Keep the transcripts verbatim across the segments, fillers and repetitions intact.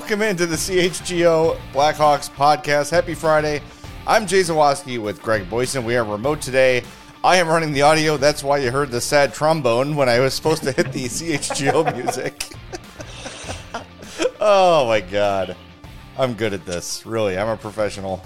welcome into the C H G O Blackhawks podcast. Happy Friday. I'm Jay Zawoski with Greg Boyson. We are remote today. I am running the audio. That's why you heard the sad trombone when I was supposed to hit the C H G O music. Oh, my God. I'm good at this. Really, I'm a professional.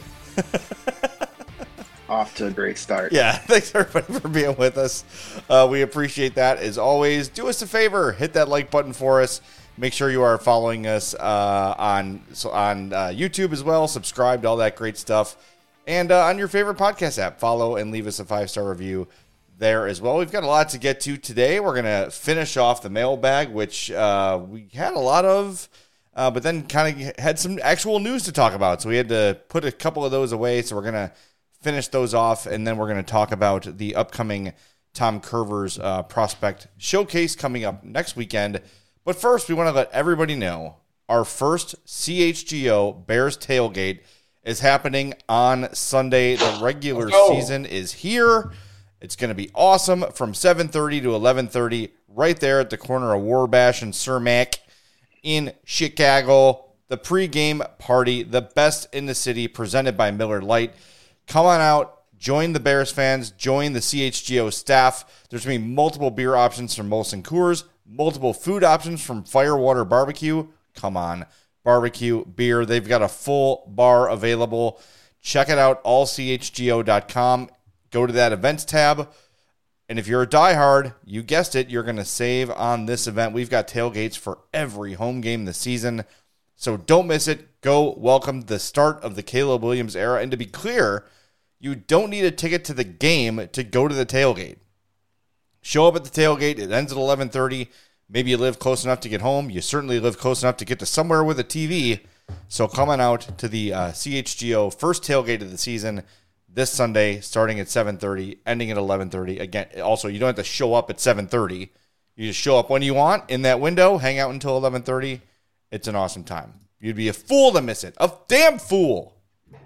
Off to a great start. Yeah, thanks everybody for being with us. Uh, we appreciate that as always. Do us a favor, hit that like button for us. Make sure you are following us uh, on so on uh, YouTube as well. Subscribe to all that great stuff, and uh, on your favorite podcast app, follow and leave us a five star review there as well. We've got a lot to get to today. We're gonna finish off the mailbag, which uh, we had a lot of. Uh, but then kind of had some actual news to talk about, so we had to put a couple of those away. So we're going to finish those off, and then we're going to talk about the upcoming Tom Kurvers uh, prospect showcase coming up next weekend. But first, we want to let everybody know our first C H G O Bears tailgate is happening on Sunday. The regular season is here. It's going to be awesome from seven thirty to eleven thirty right there at the corner of Warbash and Cermak in Chicago. The pregame party, the best in the city, presented by Miller Lite. Come on out, join the Bears fans, join the C H G O staff. There's going to be multiple beer options from Molson Coors, multiple food options from Firewater Barbecue. Come on, barbecue, beer. They've got a full bar available. Check it out, all c h g o dot com. Go to that events tab. And if you're a diehard, you guessed it, you're going to save on this event. We've got tailgates for every home game this season, so don't miss it. Go welcome the start of the Caleb Williams era. And to be clear, you don't need a ticket to the game to go to the tailgate. Show up at the tailgate. It ends at eleven thirty. Maybe you live close enough to get home. You certainly live close enough to get to somewhere with a T V. So come on out to the uh, C H G O first tailgate of the season this Sunday, starting at seven thirty, ending at eleven thirty. Again, also, you don't have to show up at seven thirty. You just show up when you want in that window, hang out until eleven thirty. It's an awesome time. You'd be a fool to miss it. A damn fool.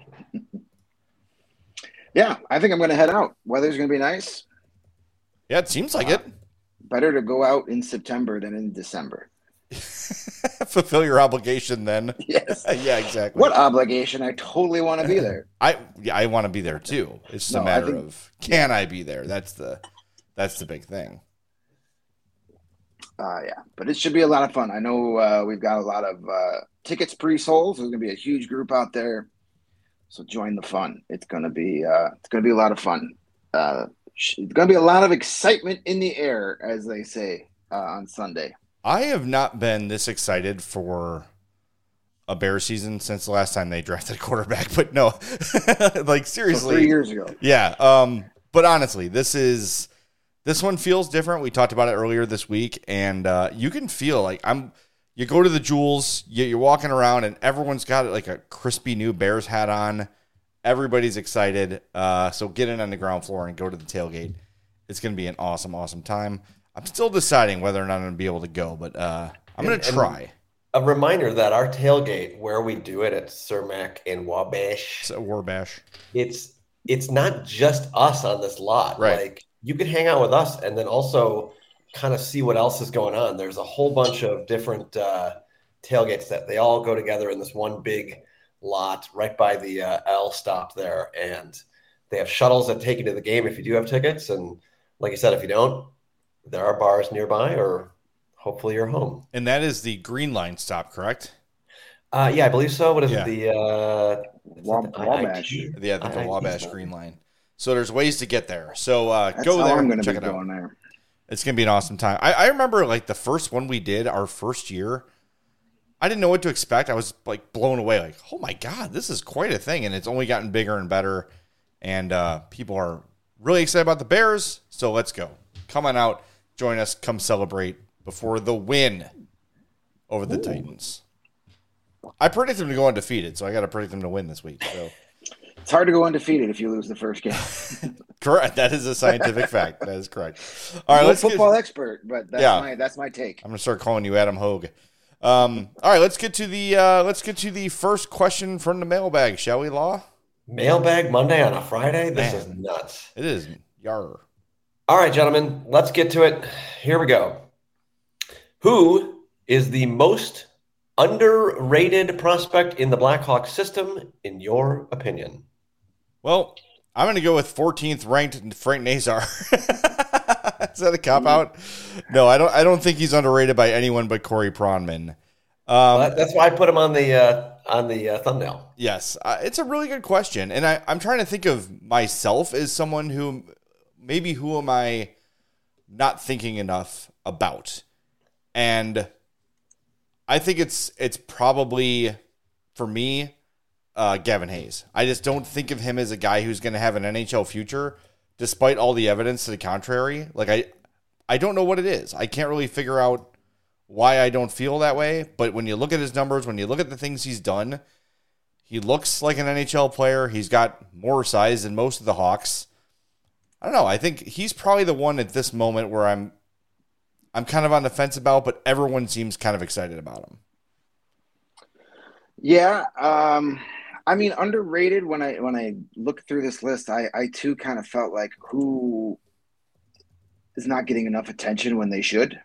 Yeah, I think I'm going to head out. Weather's going to be nice. Yeah, it seems like uh, it. Better to go out in September than in December. Fulfill your obligation then. Yes. Yeah, exactly. What obligation? I totally want to be there. I yeah, I want to be there too. It's just no, a matter think, of can I be there? That's the that's the big thing. Uh, yeah, but it should be a lot of fun. I know uh, we've got a lot of uh, tickets pre-sold. So there's going to be a huge group out there. So join the fun. It's going to be uh, it's going to be a lot of fun. Uh, it's going to be a lot of excitement in the air, as they say uh, on Sunday. I have not been this excited for a Bears season since the last time they drafted a quarterback. But no, like seriously, so three years ago. Yeah. Um. But honestly, this is this one feels different. We talked about it earlier this week, and uh, you can feel like I'm. You go to the Jewels, you, you're walking around, and everyone's got like a crispy new Bears hat on. Everybody's excited. Uh. So get in on the ground floor and go to the tailgate. It's going to be an awesome, awesome time. I'm still deciding whether or not I'm going to be able to go, but uh, I'm going to try. A reminder that our tailgate, where we do it at Cermak in Wabash, so Warbash, it's it's not just us on this lot. Right. Like you could hang out with us and then also kind of see what else is going on. There's a whole bunch of different uh, tailgates that they all go together in this one big lot right by the uh, L stop there, and they have shuttles that take you to the game if you do have tickets. And like I said, if you don't, there are bars nearby, or hopefully you're home. And that is the Green Line stop, correct? Uh, yeah, I believe so. What is yeah. it? The uh, Wab- the Wabash. Yeah, I think the Wabash Green Line. So there's ways to get there. So uh, That's go how there I'm and check be it out. Going there. It's going to be an awesome time. I, I remember like the first one we did, our first year, I didn't know what to expect. I was like blown away. Like, oh my God, this is quite a thing. And it's only gotten bigger and better. And uh, people are really excited about the Bears. So let's go. Come on out. Join us. Come celebrate before the win over the Ooh. Titans. I predict them to go undefeated, so I got to predict them to win this week. So it's hard to go undefeated if you lose the first game. Correct. That is a scientific fact. That is correct. All right, I'm let's a football get, expert, but that's yeah. my that's my take. I'm gonna start calling you Adam Hogue. Um, all right, let's get to the uh, let's get to the first question from the mailbag, shall we, Law? Mailbag Monday on a Friday? This Man, is nuts. It is. Yar. All right, gentlemen, let's get to it. Here we go. Who is the most Underrated prospect in the Blackhawks system, in your opinion? Well, I'm going to go with fourteenth ranked Frank Nazar. Is that a cop out? No, I don't. I don't think he's underrated by anyone but Corey Pronman. Um, well, that's why I put him on the uh, on the uh, thumbnail. Yes, uh, it's a really good question, and I, I'm trying to think of myself as someone who maybe who am I not thinking enough about, and I think it's it's probably for me, uh, Gavin Hayes. I just don't think of him as a guy who's going to have an N H L future, despite all the evidence to the contrary. Like I, I don't know what it is. I can't really figure out why I don't feel that way. But when you look at his numbers, when you look at the things he's done, he looks like an N H L player. He's got more size than most of the Hawks. I don't know. I think he's probably the one at this moment where I'm I'm kind of on the fence about, but everyone seems kind of excited about him. Yeah, um, I mean, underrated. When I when I look through this list, I, I too kind of felt like who is not getting enough attention when they should.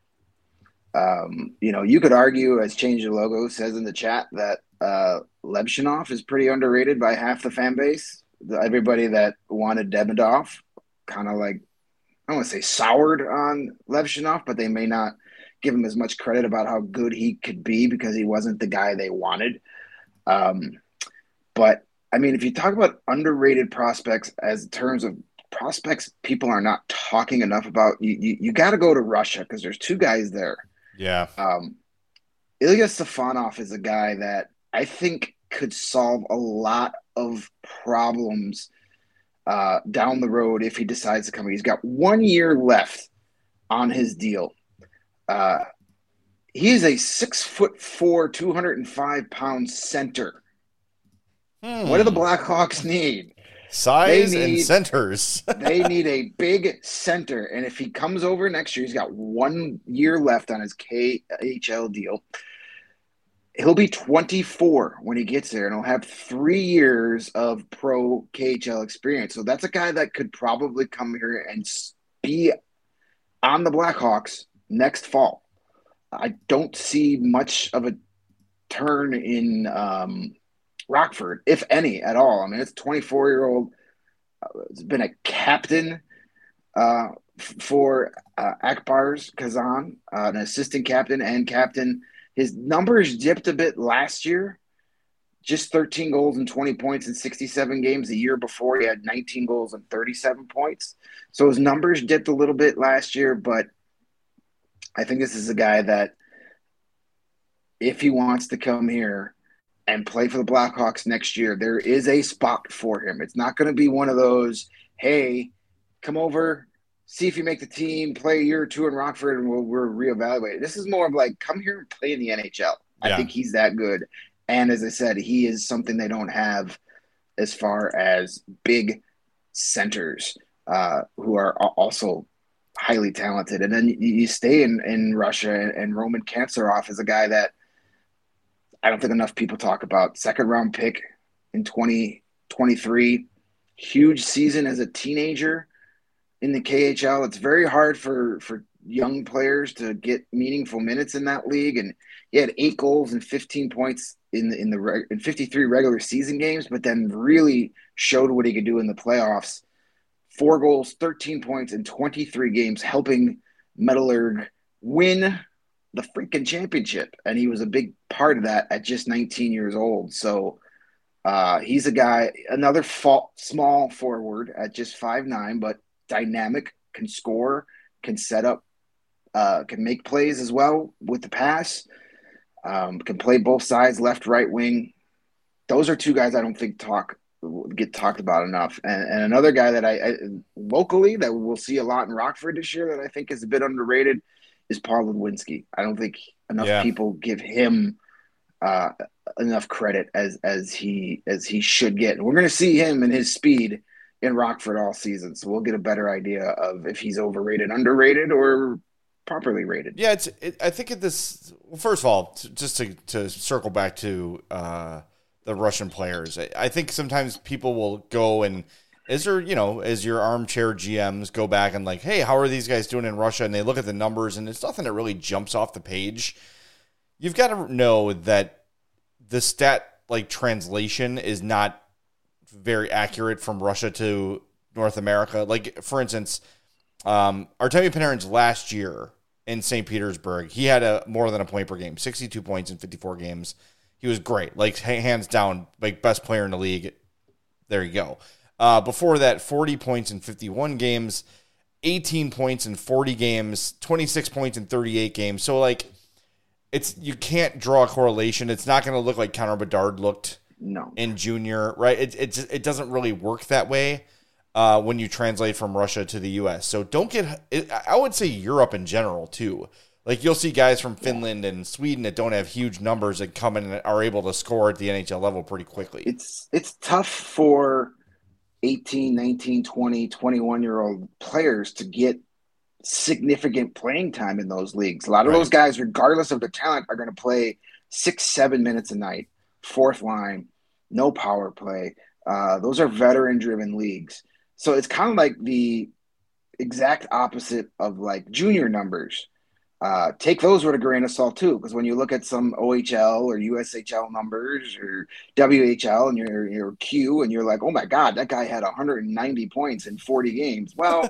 Um, you know, you could argue, as Change the Logo says in the chat, that uh, Lebshinov is pretty underrated by half the fan base. The, everybody that wanted Demidov kind of like, I don't want to say soured on Lebshinov, but they may not give him as much credit about how good he could be because he wasn't the guy they wanted. Um, but, I mean, if you talk about underrated prospects as terms of prospects people are not talking enough about, you you, you got to go to Russia because there's two guys there. Yeah. Um, Ilya Stefanov is a guy that I think could solve a lot of problems uh, down the road if he decides to come. He's got one year left on his deal. Uh, he is a six foot four, two hundred five pound center. Hmm. What do the Blackhawks need? Size need, and centers. They need a big center. And if he comes over next year, he's got one year left on his K H L deal. He'll be twenty-four when he gets there, and he'll have three years of pro K H L experience. So that's a guy that could probably come here and be on the Blackhawks next fall. I don't see much of a turn in um, Rockford, if any, at all. I mean, it's a twenty-four-year-old. Uh, it's been a captain uh, f- for uh, Akbars Kazan, uh, an assistant captain and captain. His numbers dipped a bit last year, just thirteen goals and twenty points in sixty-seven games. The year before, he had nineteen goals and thirty-seven points. So his numbers dipped a little bit last year, but I think this is a guy that if he wants to come here and play for the Blackhawks next year, there is a spot for him. It's not going to be one of those, hey, come over, see if you make the team, play a year or two in Rockford, and we'll, we'll reevaluate. This is more of like, come here and play in the N H L. Yeah. I think he's that good. And as I said, he is something they don't have as far as big centers uh, who are also highly talented. And then you, you stay in, in Russia, and, and Roman Kantsarov is a guy that I don't think enough people talk about. Second round pick in twenty twenty-three. Huge season as a teenager in the K H L. It's very hard for, for young players to get meaningful minutes in that league. And he had eight goals and fifteen points in the, in the in fifty-three regular season games, but then really showed what he could do in the playoffs. Four goals, thirteen points in twenty-three games, helping Metallurg win the freaking championship. And he was a big part of that at just nineteen years old. So uh, he's a guy, another fa- small forward at just five nine, but dynamic, can score, can set up, uh, can make plays as well with the pass, um, can play both sides, left, right wing. Those are two guys I don't think talk get talked about enough. And, and another guy that I, I locally that we'll see a lot in Rockford this year that I think is a bit underrated is Paul Ludwinski. I don't think enough yeah. people give him uh, enough credit as as he as he should get. And we're going to see him and his speed in Rockford all season, so we'll get a better idea of if he's overrated, underrated, or properly rated. Yeah, it's. It, I think at this. Well, first of all, t- just to to circle back to uh, the Russian players, I, I think sometimes people will go and. Is there, you know, as your armchair G Ms go back and like, hey, how are these guys doing in Russia? And they look at the numbers and it's nothing that really jumps off the page. you've got to know that the stat like translation is not very accurate from Russia to North America. Like, for instance, um, Artemi Panarin's last year in Saint Petersburg, he had a more than a point per game, sixty-two points in fifty-four games. He was great, like hands down, like best player in the league. There you go. Uh, before that, forty points in fifty-one games, eighteen points in forty games, twenty-six points in thirty-eight games. So, like, it's you can't draw a correlation. It's not going to look like Connor Bedard looked no. in junior, right? It it just, it doesn't really work that way uh, when you translate from Russia to the U S. So don't get. It, I would say Europe in general too. Like, you'll see guys from Finland and Sweden that don't have huge numbers that come in and are able to score at the N H L level pretty quickly. It's it's tough for eighteen, nineteen, twenty, twenty-one-year-old players to get significant playing time in those leagues. A lot of Right. those guys, regardless of their talent, are going to play six, seven minutes a night, fourth line, no power play. Uh, those are veteran-driven leagues. So it's kind of like the exact opposite of, like, junior numbers. Uh, take those with a grain of salt too, because when you look at some O H L or U S H L numbers or W H L and your your Q, and you're like, oh my God, that guy had one hundred ninety points in forty games. Well,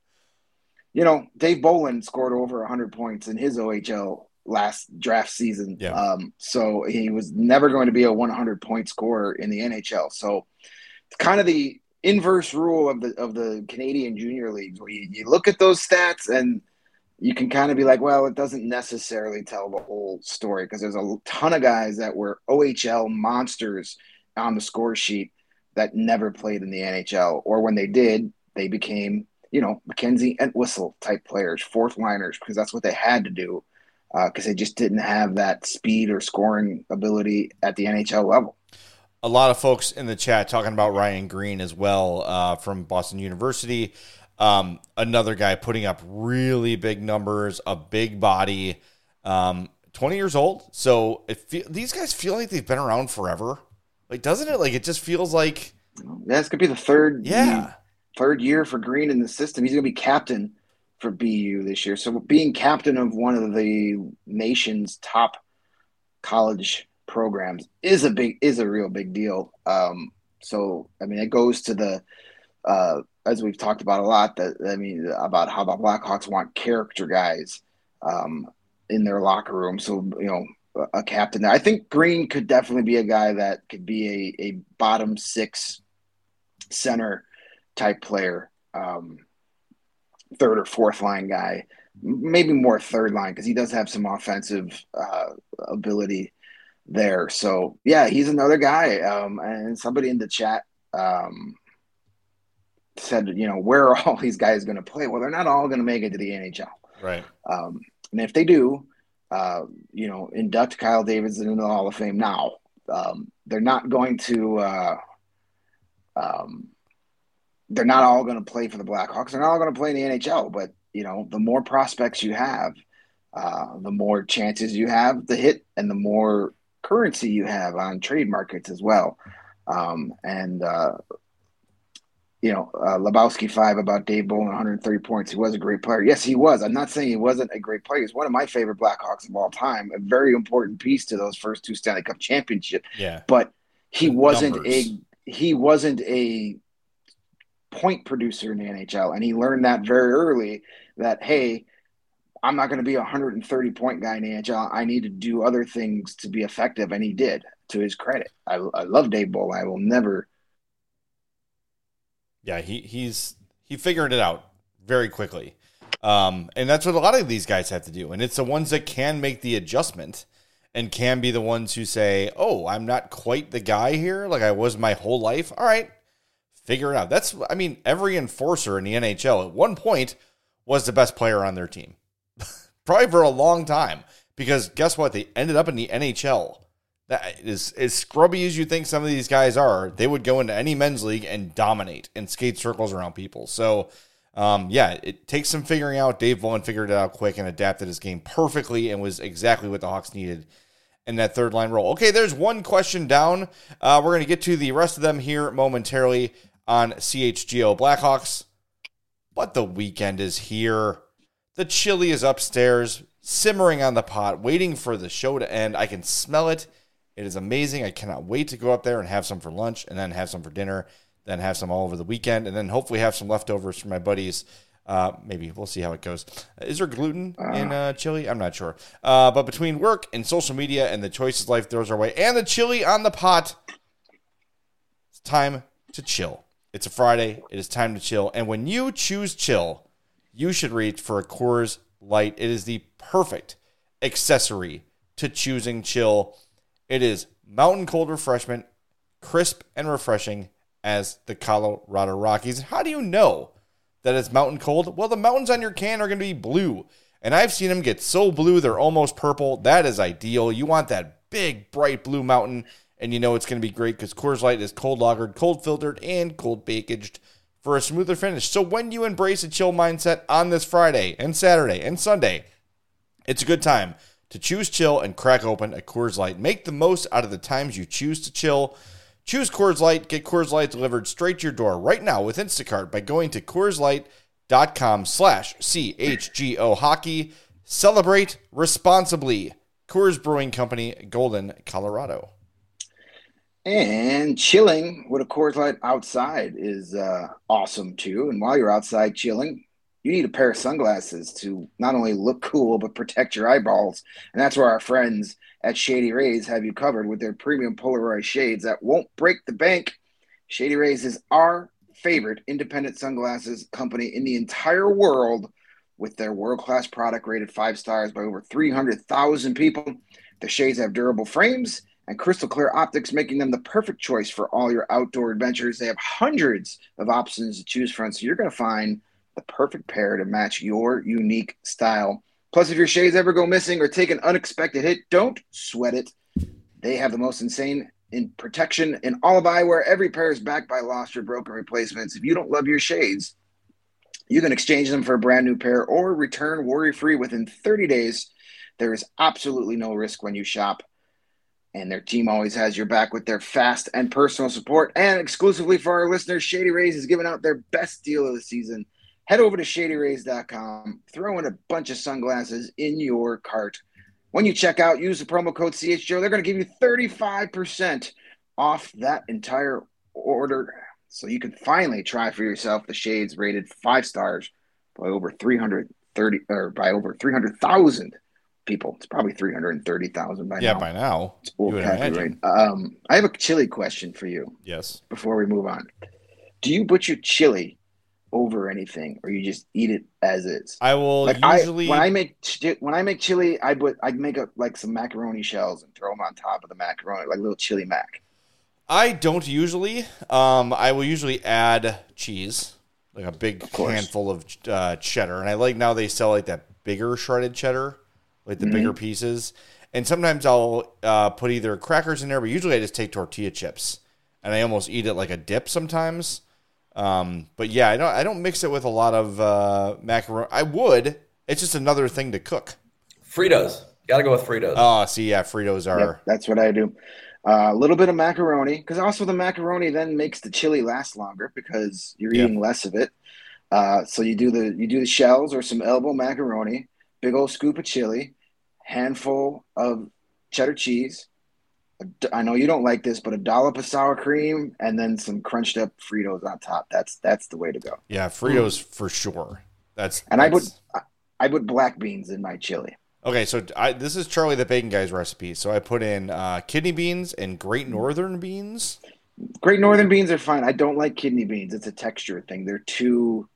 you know, Dave Bolin scored over one hundred points in his O H L last draft season. Yeah. Um, so he was never going to be a one hundred point scorer in the N H L. So it's kind of the inverse rule of the of the Canadian junior leagues, where you, you look at those stats and you can kind of be like, well, it doesn't necessarily tell the whole story, because there's a ton of guys that were O H L monsters on the score sheet that never played in the N H L, or when they did, they became, you know, Mackenzie Entwistle type players, fourth liners, because that's what they had to do, because uh, they just didn't have that speed or scoring ability at the N H L level. A lot of folks in the chat talking about Ryan Green as well, uh, from Boston University. Um, another guy putting up really big numbers, a big body, um, twenty years old. So it fe- these guys feel like they've been around forever. Like, doesn't it? Like, it just feels like, That's going to be the third, yeah, third year for Green in the system. He's going to be captain for B U this year. So being captain of one of the nation's top college programs is a big, is a real big deal. Um, so, I mean, it goes to the, uh, as we've talked about a lot, that I mean, about how the Blackhawks want character guys um, in their locker room. So, you know, a captain. I think Green could definitely be a guy that could be a, a bottom six center type player, um, third or fourth line guy, maybe more third line, because he does have some offensive uh, ability there. So, yeah, he's another guy. Um, and somebody in the chat um, said, you know, where are all these guys going to play? Well, they're not all going to make it to the N H L. right. Um, and if they do, uh, you know, induct Kyle Davidson into the Hall of Fame now. Um, they're not going to uh, um, they're not all going to play for the Blackhawks. They're not all going to play in the N H L. But, you know, the more prospects you have, uh, the more chances you have to hit, and the more currency you have on trade markets as well. Um, and, uh, you know, uh, Lebowski five about Dave Bolin, one hundred thirty points. He was a great player. Yes, he was. I'm not saying he wasn't a great player. He's one of my favorite Blackhawks of all time. A very important piece to those first two Stanley Cup championships. Yeah. But he The wasn't numbers. a he wasn't a point producer in the N H L, and he learned that very early. That hey, I'm not going to be a one hundred thirty point guy in the N H L. I need to do other things to be effective, and he did. To his credit, I, I love Dave Bolin. I will never. Yeah, he he's he figured it out very quickly. Um, and that's what a lot of these guys have to do. And it's the ones that can make the adjustment and can be the ones who say, oh, I'm not quite the guy here like I was my whole life. All right, figure it out. That's, I mean, every enforcer in the N H L at one point was the best player on their team. Probably for a long time. Because guess what? They ended up in the N H L. That is as scrubby as you think some of these guys are. They would go into any men's league and dominate and skate circles around people. So, um, yeah, it takes some figuring out. Dave Bolin figured it out quick and adapted his game perfectly and was exactly what the Hawks needed in that third line role. Okay, there's one question down. Uh, we're going to get to the rest of them here momentarily on C H G O Blackhawks. But the weekend is here. The chili is upstairs. simmering on the pot, waiting for the show to end. I can smell it. It is amazing. I cannot wait to go up there and have some for lunch, and then have some for dinner, then have some all over the weekend, and then hopefully have some leftovers for my buddies. Uh, maybe we'll see how it goes. Is there gluten in uh, chili? I'm not sure. Uh, but between work and social media and the choices life throws our way, and the chili on the pot, it's time to chill. It's a Friday. It is time to chill. And when you choose chill, you should reach for a Coors Light. It is the perfect accessory to choosing chill. It is mountain cold refreshment, crisp and refreshing as the Colorado Rockies. How do you know that it's mountain cold? Well, the mountains on your can are going to be blue. And I've seen them get so blue, they're almost purple. That is ideal. You want that big, bright blue mountain, and you know it's going to be great because Coors Light is cold lagered, cold filtered, and cold packaged for a smoother finish. So when you embrace a chill mindset on this Friday and Saturday and Sunday, it's a good time to choose chill and crack open a Coors Light. Make the most out of the times you choose to chill. Choose Coors Light. Get Coors Light delivered straight to your door right now with Instacart by going to CoorsLight.com slash CHGO Hockey. Celebrate responsibly. Coors Brewing Company, Golden, Colorado. And chilling with a Coors Light outside is uh, awesome too. And while you're outside chilling, you need a pair of sunglasses to not only look cool, but protect your eyeballs. And that's where our friends at Shady Rays have you covered with their premium polarized shades that won't break the bank. Shady Rays is our favorite independent sunglasses company in the entire world, with their world-class product rated five stars by over three hundred thousand people. The shades have durable frames and crystal clear optics, making them the perfect choice for all your outdoor adventures. They have hundreds of options to choose from, so you're going to find the perfect pair to match your unique style. Plus, if your shades ever go missing or take an unexpected hit, don't sweat it. They have the most insane in protection in all of eyewear. Every pair is backed by lost or broken replacements. If you don't love your shades, you can exchange them for a brand new pair or return worry-free within thirty days. There is absolutely no risk when you shop. And their team always has your back with their fast and personal support. And exclusively for our listeners, Shady Rays is giving out their best deal of the season. Head over to Shady Rays dot com, throw in a bunch of sunglasses in your cart. When you check out, use the promo code C H G O. They're going to give you thirty-five percent off that entire order, so you can finally try for yourself the shades rated five stars by over three hundred thirty or by over three hundred thousand people. It's probably three hundred thirty thousand by yeah, now. Yeah, by now. It's old copyright. Um, I have a chili question for you. Yes. Before we move on, do you put your chili over anything, or you just eat it as is? I will like usually I, when I make when I make chili, I put I make a, like some macaroni shells and throw them on top of the macaroni, like little chili mac. I don't usually. Um, I will usually add cheese, like a big of handful of uh, cheddar, and I like now they sell like that bigger shredded cheddar, like the mm-hmm. bigger pieces. And sometimes I'll uh, put either crackers in there, but usually I just take tortilla chips, and I almost eat it like a dip sometimes. Um, but yeah, I don't, I don't mix it with a lot of, uh, macaroni. I would, it's just another thing to cook. Fritos. Got to go with Fritos. Oh, see, yeah, Fritos are. Yep, that's what I do. Uh, a little bit of macaroni, because also the macaroni then makes the chili last longer because you're yep. eating less of it. Uh, so you do the, you do the shells or some elbow macaroni, big old scoop of chili, handful of cheddar cheese. I know you don't like this, but a dollop of sour cream and then some crunched up Fritos on top. That's that's the way to go. Yeah, Fritos mm. for sure. That's and that's... I put I put black beans in my chili. Okay, so I, this is Charlie the Bacon Guy's recipe. So I put in uh, kidney beans and Great Northern beans. Great Northern beans are fine. I don't like kidney beans. It's a texture thing. They're too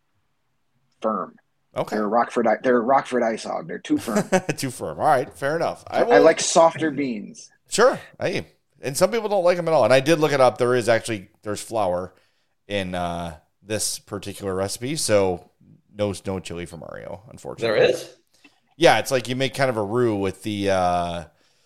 firm. Okay. They're a Rockford. They're a Rockford ice hog. They're too firm. Too firm. All right, fair enough. I, will... I like softer beans. Sure. Hey, and some people don't like them at all. And I did look it up. There is actually there's flour in uh, this particular recipe, so no no chili for Mario, unfortunately. There is. Yeah, it's like you make kind of a roux with the uh,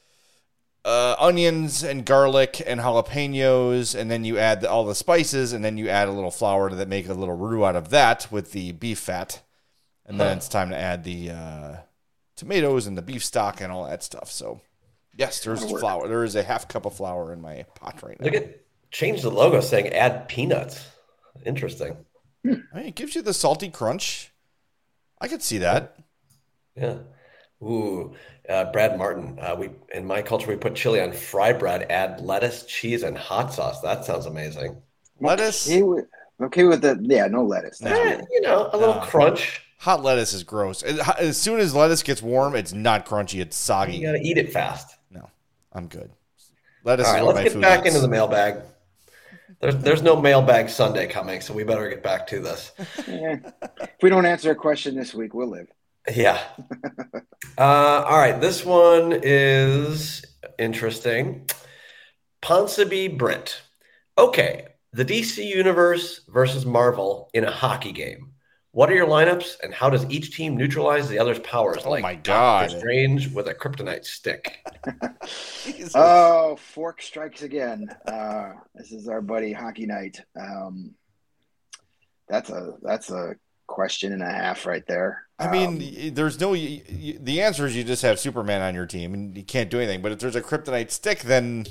uh, onions and garlic and jalapenos, and then you add the, all the spices, and then you add a little flour to that, make a little roux out of that with the beef fat, and then huh. it's time to add the uh, tomatoes and the beef stock and all that stuff. So. Yes, there's flour. There is a half cup of flour in my pot right now. Look at change the logo saying add peanuts. Interesting. I mean, it gives you the salty crunch. I could see that. Yeah. Ooh, uh, Brad Martin. Uh, we in my culture we put chili on fry bread, add lettuce, cheese, and hot sauce. That sounds amazing. I'm Lettuce? okay with, okay with the yeah, no lettuce. That's No. Eh, weird. you know, a little No. crunch. Hot lettuce is gross. As soon as lettuce gets warm, it's not crunchy. It's soggy. You got to eat it fast. No, I'm good. Lettuce All is right, one of let's my get food back groups. into the mailbag. There's there's no mailbag Sunday coming, so we better get back to this. Eh, if we don't answer a question this week, we'll live. Yeah. Uh, all right, this one is interesting. Ponsonby Britt. Okay, the D C Universe versus Marvel in a hockey game. What are your lineups, and how does each team neutralize the other's powers? Oh like my Doctor God. Strange with a kryptonite stick. Jesus. Oh, fork strikes again. Uh, this is our buddy Hockey Night. Um, that's a that's a question and a half right there. I mean, Um, y- there's no. y- y- The answer is you just have Superman on your team, and you can't do anything. But if there's a kryptonite stick, then,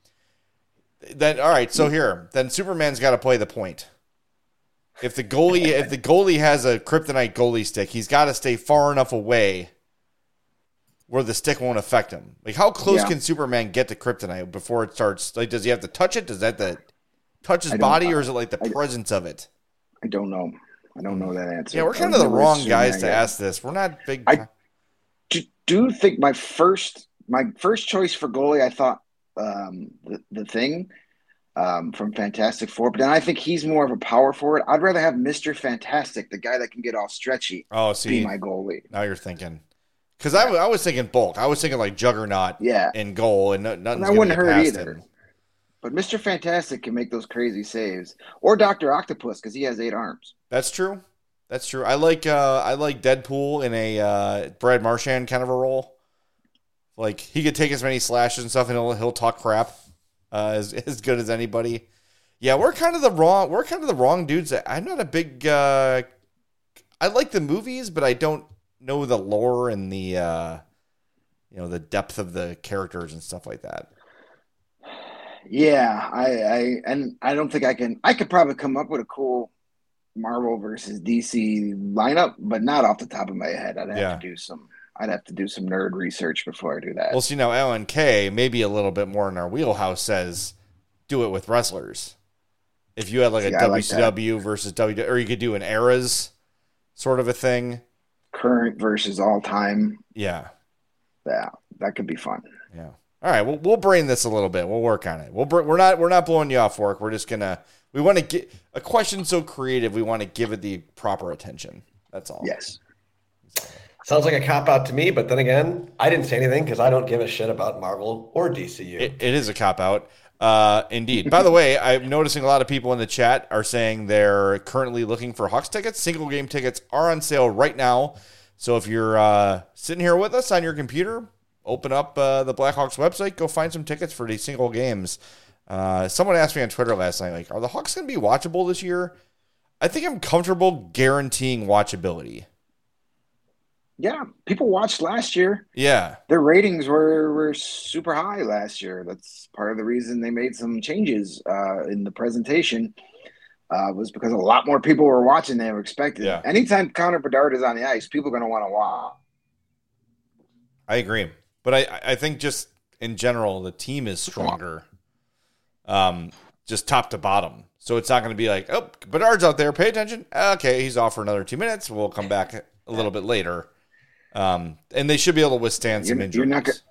then all right. So here, then Superman's got to play the point. If the goalie, if the goalie has a kryptonite goalie stick, he's got to stay far enough away where the stick won't affect him. Like, how close Yeah. can Superman get to kryptonite before it starts? Like, does he have to touch it? Does that the touch his I don't- body, or is it like the I- presence of it? I don't know. I don't know that answer. Yeah, we're I kind of the never wrong assumed guys that to yet. ask this. We're not big. I- do, do think my first my first choice for goalie, I thought um, the the thing um, from Fantastic Four, but then I think he's more of a power forward. I'd rather have Mister Fantastic, the guy that can get all stretchy, oh, be see, my goalie. now you're thinking. Because I, I was thinking bulk. I was thinking like Juggernaut Yeah, in goal, and no, nothing's that going to wouldn't get hurt past either. him. But Mister Fantastic can make those crazy saves, or Doctor Octopus because he has eight arms. That's true. That's true. I like uh, I like Deadpool in a uh, Brad Marchand kind of a role. Like, he could take as many slashes and stuff, and he'll he'll talk crap uh, as as good as anybody. Yeah, we're kind of the wrong we're kind of the wrong dudes. I'm not a big. Uh, I like the movies, but I don't know the lore and the uh, you know the depth of the characters and stuff like that. Yeah, I, I and I don't think I can. I could probably come up with a cool Marvel versus D C lineup, but not off the top of my head. I'd have Yeah. to do some. I'd have to do some nerd research before I do that. Well, see, now L N K, maybe a little bit more in our wheelhouse, says do it with wrestlers. If you had like See, a I like W C W versus W, or you could do an eras sort of a thing. Current versus all time. Yeah, Yeah, that could be fun. yeah. All right, we'll we'll brain this a little bit. We'll work on it. We'll br- we're not we're not blowing you off work. We're just gonna we want to get a question so creative. We want to give it the proper attention. That's all. Yes. Sounds like a cop out to me, but then again, I didn't say anything because I don't give a shit about Marvel or D C U. It, it is a cop out. Uh, indeed. By the way, I'm noticing a lot of people in the chat are saying they're currently looking for Hawks tickets. Single game tickets are on sale right now. So if you're uh, sitting here with us on your computer, open up uh, the Blackhawks website, go find some tickets for these single games. Uh, someone asked me on Twitter last night, like, are the Hawks going to be watchable this year? I think I'm comfortable guaranteeing watchability. Yeah, people watched last year. Yeah. Their ratings were, were super high last year. That's part of the reason they made some changes uh, in the presentation. Uh, was because a lot more people were watching than they were expecting. Yeah. Anytime Connor Bedard is on the ice, people are going to want to watch. I agree. But I, I think just in general, the team is stronger, um, just top to bottom. So it's not going to be like, oh, Bedard's out there. Pay attention. Okay, he's off for another two minutes. We'll come back a little bit later. Um, and they should be able to withstand some You're- injuries. you're not gonna-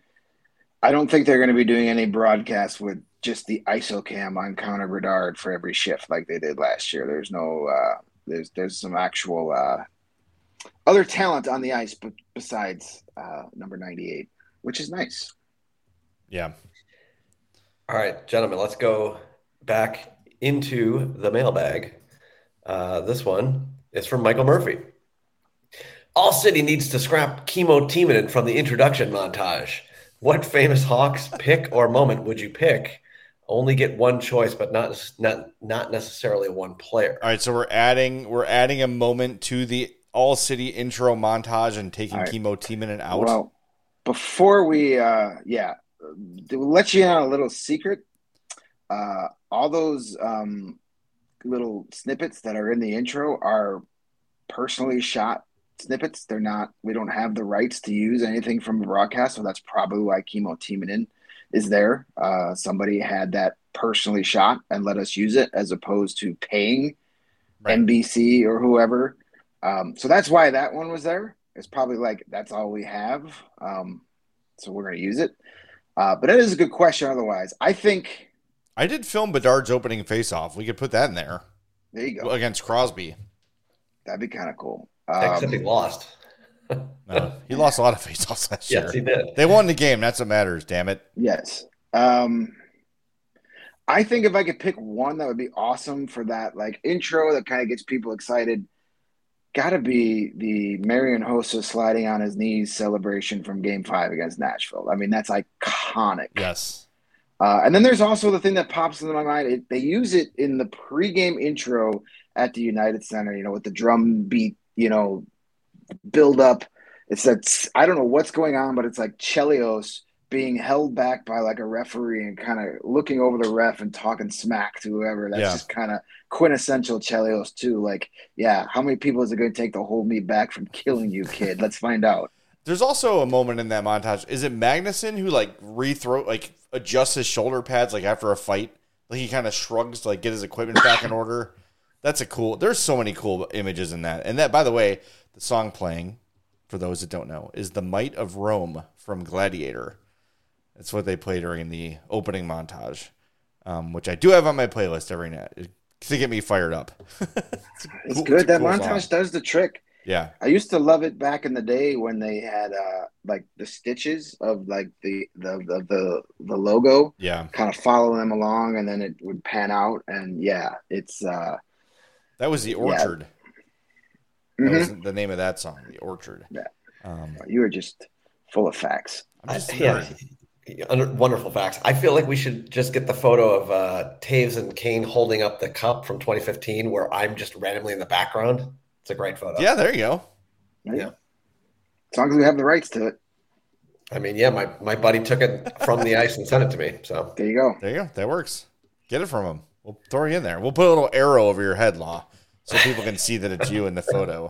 I don't think they're going to be doing any broadcast with just the I S O cam on Connor Bedard for every shift like they did last year. There's no, uh, there's there's some actual uh, other talent on the ice, but besides uh, number ninety-eight, which is nice. Yeah. All right, gentlemen, let's go back into the mailbag. Uh, this one is from Michael Murphy. All City needs to scrap Chemo Timonen from the introduction montage. What famous Hawks pick or moment would you pick? Only get one choice, but not not not necessarily one player. All right, so we're adding we're adding a moment to the All City intro montage and taking All right. Chemo Timonen out. Well, before we, uh, yeah, to let you in on a little secret, uh, all those um, little snippets that are in the intro are personally shot snippets. They're not. We don't have the rights to use anything from the broadcast, so that's probably why Chemo Timonen is there. Uh, somebody had that personally shot and let us use it, as opposed to paying right. N B C or whoever. Um, so that's why that one was there. It's probably like that's all we have, um, so we're going to use it. Uh, but it is a good question. Otherwise, I think I did film Bedard's opening faceoff. We could put that in there. There you go. Against Crosby. That'd be kind of cool. Um, Except he lost. No, he lost a lot of faceoffs last yes, year. Yes, he did. They won the game. That's what matters. Damn it. Yes. Um, I think if I could pick one that would be awesome for that like intro that kind of gets people excited, got to be the Marian Hossa sliding on his knees celebration from Game Five against Nashville. I mean, that's iconic. Yes. Uh, and then there's also the thing that pops into my mind. It, they use it in the pregame intro at the United Center, you know, with the drum beat, you know, build up. It's that, I don't know what's going on, but it's like Chelios being held back by like a referee and kind of looking over the ref and talking smack to whoever. That's yeah. just kind of quintessential Chelios too. Like, yeah, how many people is it going to take to hold me back from killing you, kid? Let's find out. There's also a moment in that montage. Is it Magnuson who like rethrow, like adjusts his shoulder pads like after a fight? Like he kind of shrugs to like get his equipment back in order. That's a cool. There's so many cool images in that. And that, by the way, the song playing, for those that don't know, is "The Might of Rome" from Gladiator. That's what they play during the opening montage, um, which I do have on my playlist every night to get me fired up. it's, it's cool, good. It's that cool montage song. Does the trick. Yeah, I used to love it back in the day when they had uh, like the stitches of like the the the the, the logo. Yeah, kind of follow them along, and then it would pan out. And yeah, it's uh, that was the Orchard. Yeah. That mm-hmm. was the name of that song, the Orchard. Yeah, um, you were just full of facts. I'm just I, yeah, wonderful facts. I feel like we should just get the photo of uh, Taves and Kane holding up the cup from twenty fifteen, where I'm just randomly in the background. It's a great photo. Yeah, there you go. Yeah. As long as we have the rights to it. I mean, yeah, my, my buddy took it from the ice and sent it to me. So there you go. There you go. That works. Get it from him. We'll throw you in there. We'll put a little arrow over your head, Law, so people can see that it's you in the photo.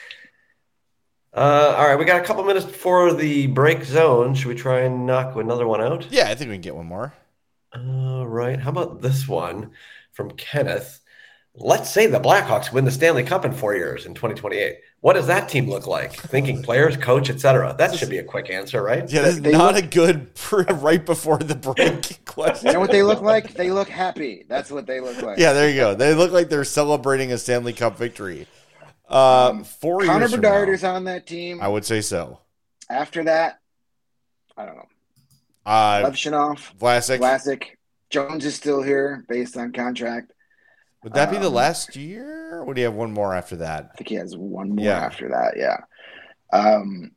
Uh, all right, we got a couple minutes before the break zone. Should we try and knock another one out? Yeah, I think we can get one more. All right. How about this one from Kenneth? Let's say the Blackhawks win the Stanley Cup in four years in twenty twenty-eight. What does that team look like? Thinking players, coach, et cetera. That should be a quick answer, right? Yeah, that's not look, a good right before the break question. You know what they look like? They look happy. That's what they look like. Yeah, there you go. They look like they're celebrating a Stanley Cup victory. Uh, um, four Connor years Bedard now, is on that team. I would say so. After that, I don't know. Uh, Levshunov, Vlasic. Vlasic. Jones is still here based on contract. Would that be um, the last year? Or would he have one more after that? I think he has one more yeah. after that, yeah. Um,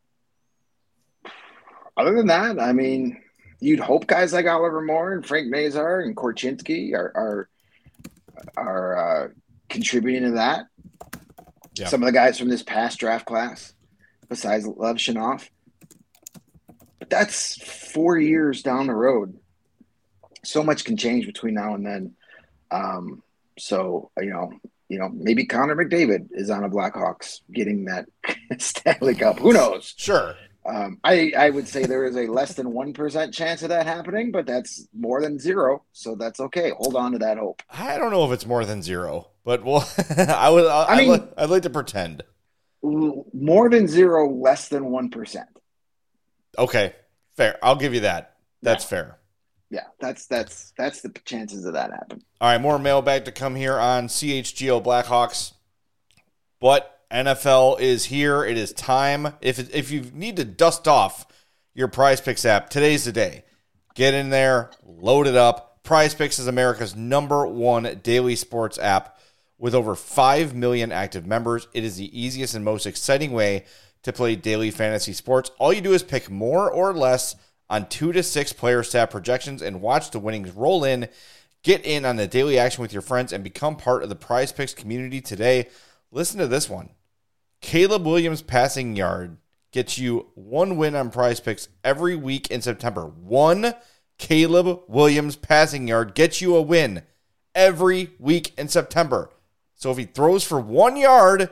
other than that, I mean, you'd hope guys like Oliver Moore and Frank Nazar and Korchinski are are, are uh, contributing to that. Yeah. Some of the guys from this past draft class, besides Levshunov. But that's four years down the road. So much can change between now and then. Um, so, you know, you know, maybe Connor McDavid is on a Blackhawks getting that Stanley Cup. Who knows? Sure. Um, I, I would say there is a less than one percent chance of that happening, but that's more than zero. So that's okay. Hold on to that hope. I don't know if it's more than zero, but well, I would, I, I mean, I'd, I'd like to pretend. More than zero, less than one percent. Okay. Fair. I'll give you that. That's yeah. fair. Yeah, that's that's that's the chances of that happen. All right, more mailbag to come here on C H G O Blackhawks. But N F L is here. It is time. If if you need to dust off your Prize Picks app, today's the day. Get in there, load it up. Prize Picks is America's number one daily sports app with over five million active members. It is the easiest and most exciting way to play daily fantasy sports. All you do is pick more or less on two to six player stat projections and watch the winnings roll in. Get in on the daily action with your friends and become part of the Prize Picks community today. Listen to this one. Caleb Williams passing yard gets you one win on Prize Picks every week in September. One Caleb Williams passing yard gets you a win every week in September. So if he throws for one yard,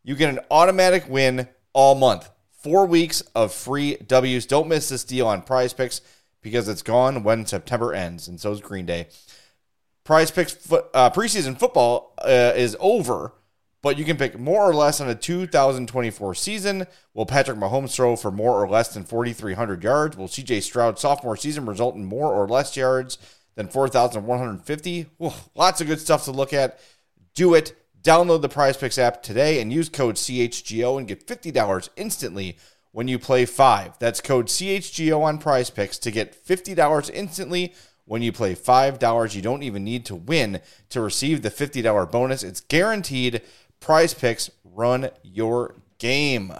you get an automatic win all month. Four weeks of free W's. Don't miss this deal on Prize Picks because it's gone when September ends, and so is Green Day. Prize Picks foot, uh, preseason football uh, is over, but you can pick more or less on a two thousand twenty-four season. Will Patrick Mahomes throw for more or less than forty-three hundred yards? Will C J Stroud's sophomore season result in more or less yards than four thousand one hundred fifty? Ooh, lots of good stuff to look at. Do it. Download the Prize Picks app today and use code C H G O and get fifty dollars instantly when you play five. That's code C H G O on Prize Picks to get fifty dollars instantly when you play five dollars. You don't even need to win to receive the fifty dollars bonus. It's guaranteed. Prize Picks, run your game.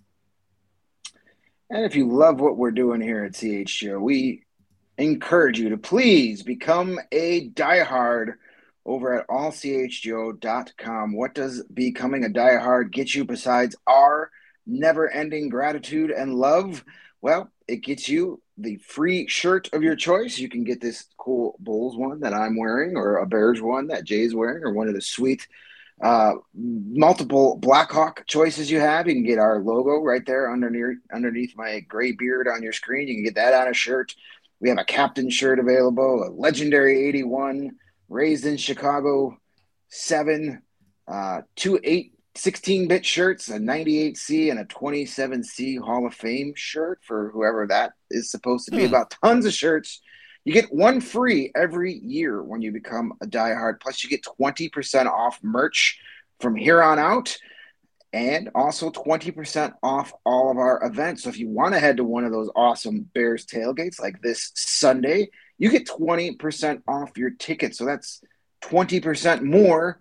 And if you love what we're doing here at C H G O, we encourage you to please become a diehard over at all c h g o dot com. What does becoming a diehard get you besides our never-ending gratitude and love? Well, it gets you the free shirt of your choice. You can get this cool Bulls one that I'm wearing, or a Bears one that Jay's wearing, or one of the sweet uh, multiple Blackhawk choices you have. You can get our logo right there underneath underneath my gray beard on your screen. You can get that on a shirt. We have a captain shirt available, a legendary eighty-one, raised in Chicago seven, uh, two eight sixteen-bit shirts, a ninety-eight C and a twenty-seven C Hall of Fame shirt for whoever that is supposed to be Hmm. about. Tons of shirts. You get one free every year when you become a diehard. Plus, you get twenty percent off merch from here on out, and also twenty percent off all of our events. So if you want to head to one of those awesome Bears tailgates like this Sunday, you get twenty percent off your ticket. So that's twenty percent more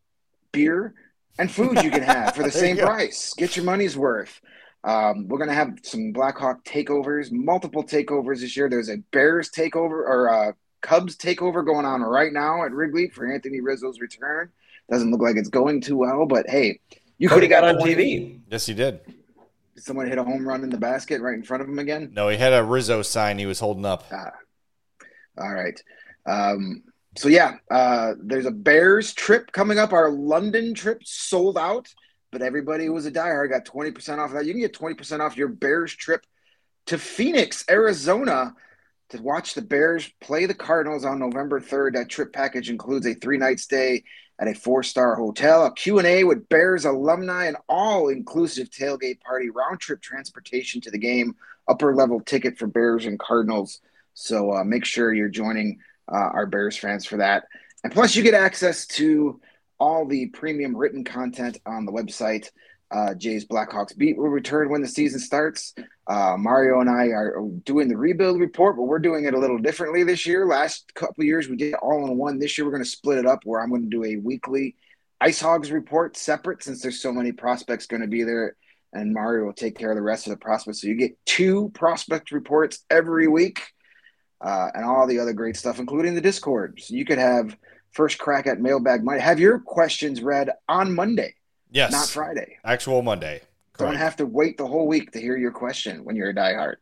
beer and food you can have for the There you same go. price. Get your money's worth. Um, we're going to have some Blackhawk takeovers, multiple takeovers this year. There's a Bears takeover or a Cubs takeover going on right now at Wrigley for Anthony Rizzo's return. Doesn't look like it's going too well, but hey, you could Cody have got got on twenty T V. Yes, he did. Did someone hit a home run in the basket right in front of him again? No, he had a Rizzo sign he was holding up. Ah, all right. Um, so, yeah, uh, there's a Bears trip coming up. Our London trip sold out, but everybody who was a diehard got twenty percent off of that. You can get twenty percent off your Bears trip to Phoenix, Arizona, to watch the Bears play the Cardinals on November third. That trip package includes a three-night stay at a four-star hotel, a Q and A with Bears alumni, an all-inclusive tailgate party, round-trip transportation to the game, upper-level ticket for Bears and Cardinals. So uh, make sure you're joining uh, our Bears fans for that. And plus, you get access to all the premium written content on the website. Uh, Jay's Blackhawks Beat will return when the season starts. Uh, Mario and I are doing the rebuild report, but we're doing it a little differently this year. Last couple of years, we did it all in one. This year, we're going to split it up where I'm going to do a weekly Ice Hogs report separate since there's so many prospects going to be there, and Mario will take care of the rest of the prospects. So you get two prospect reports every week uh, and all the other great stuff, including the Discord. So you could have first crack at Mailbag Monday. Have your questions read on Monday, Yes. not Friday. Actual Monday. Don't Correct. have to wait the whole week to hear your question when you're a diehard.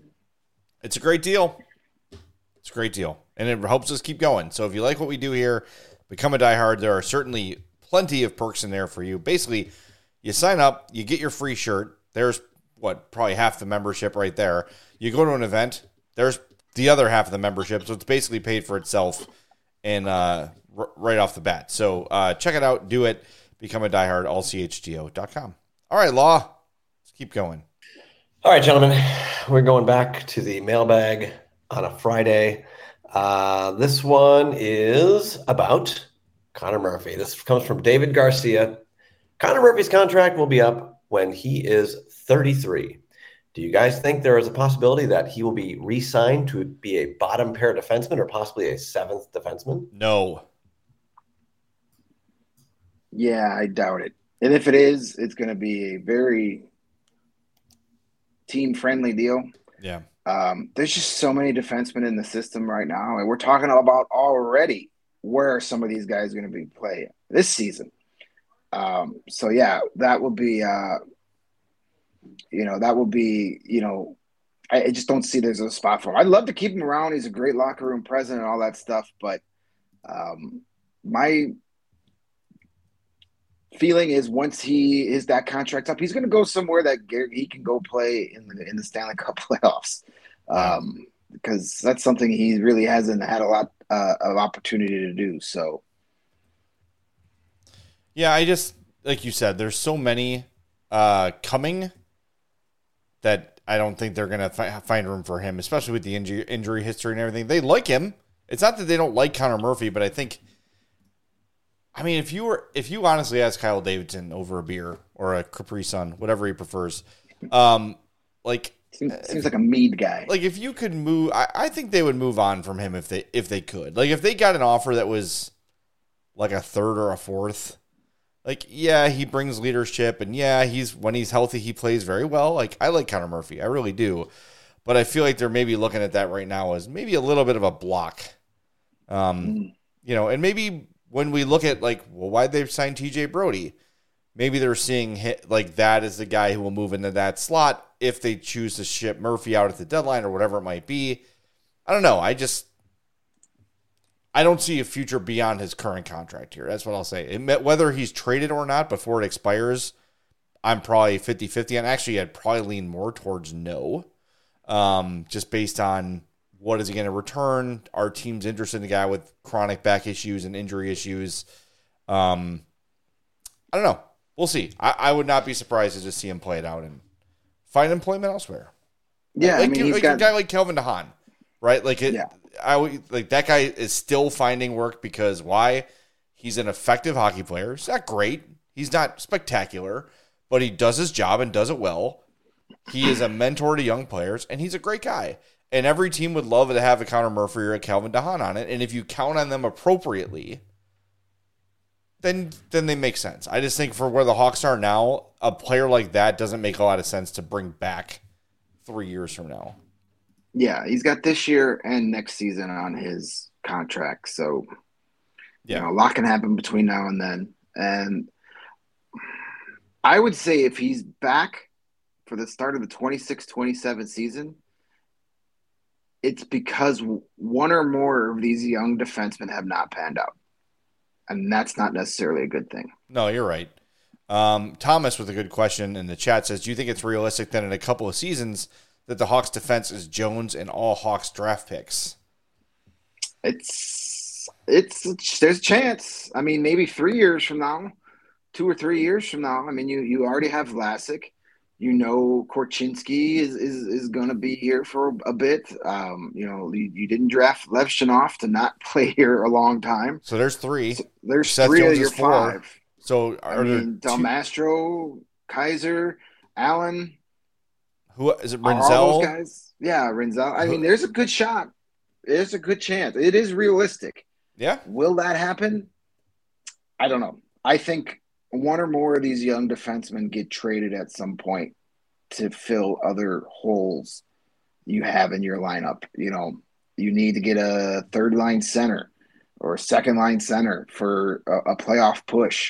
It's a great deal. It's a great deal. And it helps us keep going. So if you like what we do here, become a diehard. There are certainly plenty of perks in there for you. Basically, you sign up, you get your free shirt. There's, what, probably half the membership right there. You go to an event, there's the other half of the membership. So it's basically paid for itself and uh, r- right off the bat. So uh, check it out. Do it. Become a diehard, all c h g o dot com. All right, Law. Let's keep going. All right, gentlemen, we're going back to the mailbag on a Friday. Uh, this one is about Connor Murphy. This comes from David Garcia. Connor Murphy's contract will be up when he is thirty-three. Do you guys think there is a possibility that he will be re-signed to be a bottom pair defenseman or possibly a seventh defenseman? No. Yeah, I doubt it. And if it is, it's going to be a very team-friendly deal. Yeah. Um, there's just so many defensemen in the system right now, and we're talking about already where some of these guys are going to be playing this season. Um, so yeah, that will be, uh, you know, that will be, you know, I, I just don't see there's a spot for him. I'd love to keep him around. He's a great locker room president and all that stuff, but um, my feeling is once he is that contract up, he's going to go somewhere that he can go play in the in the Stanley Cup playoffs, um, because that's something he really hasn't had a lot uh, of opportunity to do. So, yeah, I just like you said, there's so many uh, coming that I don't think they're going to fi- find room for him, especially with the injury injury history and everything. They like him. It's not that they don't like Connor Murphy, but I think. I mean, if you were, if you honestly ask Kyle Davidson over a beer or a Capri Sun, whatever he prefers, um, like seems, seems like a mead guy. Like if you could move, I, I think they would move on from him if they if they could. Like if they got an offer that was like a third or a fourth, like yeah, he brings leadership, and yeah, he's when he's healthy, he plays very well. Like I like Connor Murphy, I really do, but I feel like they're maybe looking at that right now as maybe a little bit of a block, um, mm. you know, and maybe. When we look at, like, well, why'd they sign T J Brody? Maybe they're seeing hit, like that as the guy who will move into that slot if they choose to ship Murphy out at the deadline or whatever it might be. I don't know. I just I don't see a future beyond his current contract here. That's what I'll say. It, whether he's traded or not before it expires, I'm probably fifty-fifty. And actually, I'd probably lean more towards no, um, just based on what is he going to return? Our team's interested in a guy with chronic back issues and injury issues. Um, I don't know. We'll see. I, I would not be surprised to just see him play it out and find employment elsewhere. Yeah, like, I mean, he's like got a guy like Kelvin DeHaan, right? Like it. Yeah. I like that guy is still finding work because why? He's an effective hockey player. He's not great. He's not spectacular, but he does his job and does it well. He is a mentor to young players, and he's a great guy. And every team would love to have a Connor Murphy or a Kelvin DeHaan on it. And if you count on them appropriately, then then they make sense. I just think for where the Hawks are now, a player like that doesn't make a lot of sense to bring back three years from now. Yeah, he's got this year and next season on his contract. So, yeah. you know, a lot can happen between now and then. And I would say if he's back for the start of the twenty-six twenty-seven season, it's because one or more of these young defensemen have not panned out. And that's not necessarily a good thing. No, you're right. Um, Thomas with a good question in the chat says, do you think it's realistic that in a couple of seasons that the Hawks defense is Jones and all Hawks draft picks? It's, it's, there's a chance. I mean, maybe three years from now, two or three years from now. I mean, you, you already have Vlasic. You know, Korchinski is is, is going to be here for a bit. Um, you know, you, you didn't draft Levshunov to not play here a long time. So there's three. So there's Seth three Jones of your four. five. So I mean, Del Mastro, Kaiser, Allen. Who is it? All Rinzel? those guys. Yeah, Rinzel. I mean, there's a good shot. There's a good chance. It is realistic. Yeah. Will that happen? I don't know. I think one or more of these young defensemen get traded at some point to fill other holes you have in your lineup. You know, you need to get a third line center or a second line center for a, a playoff push.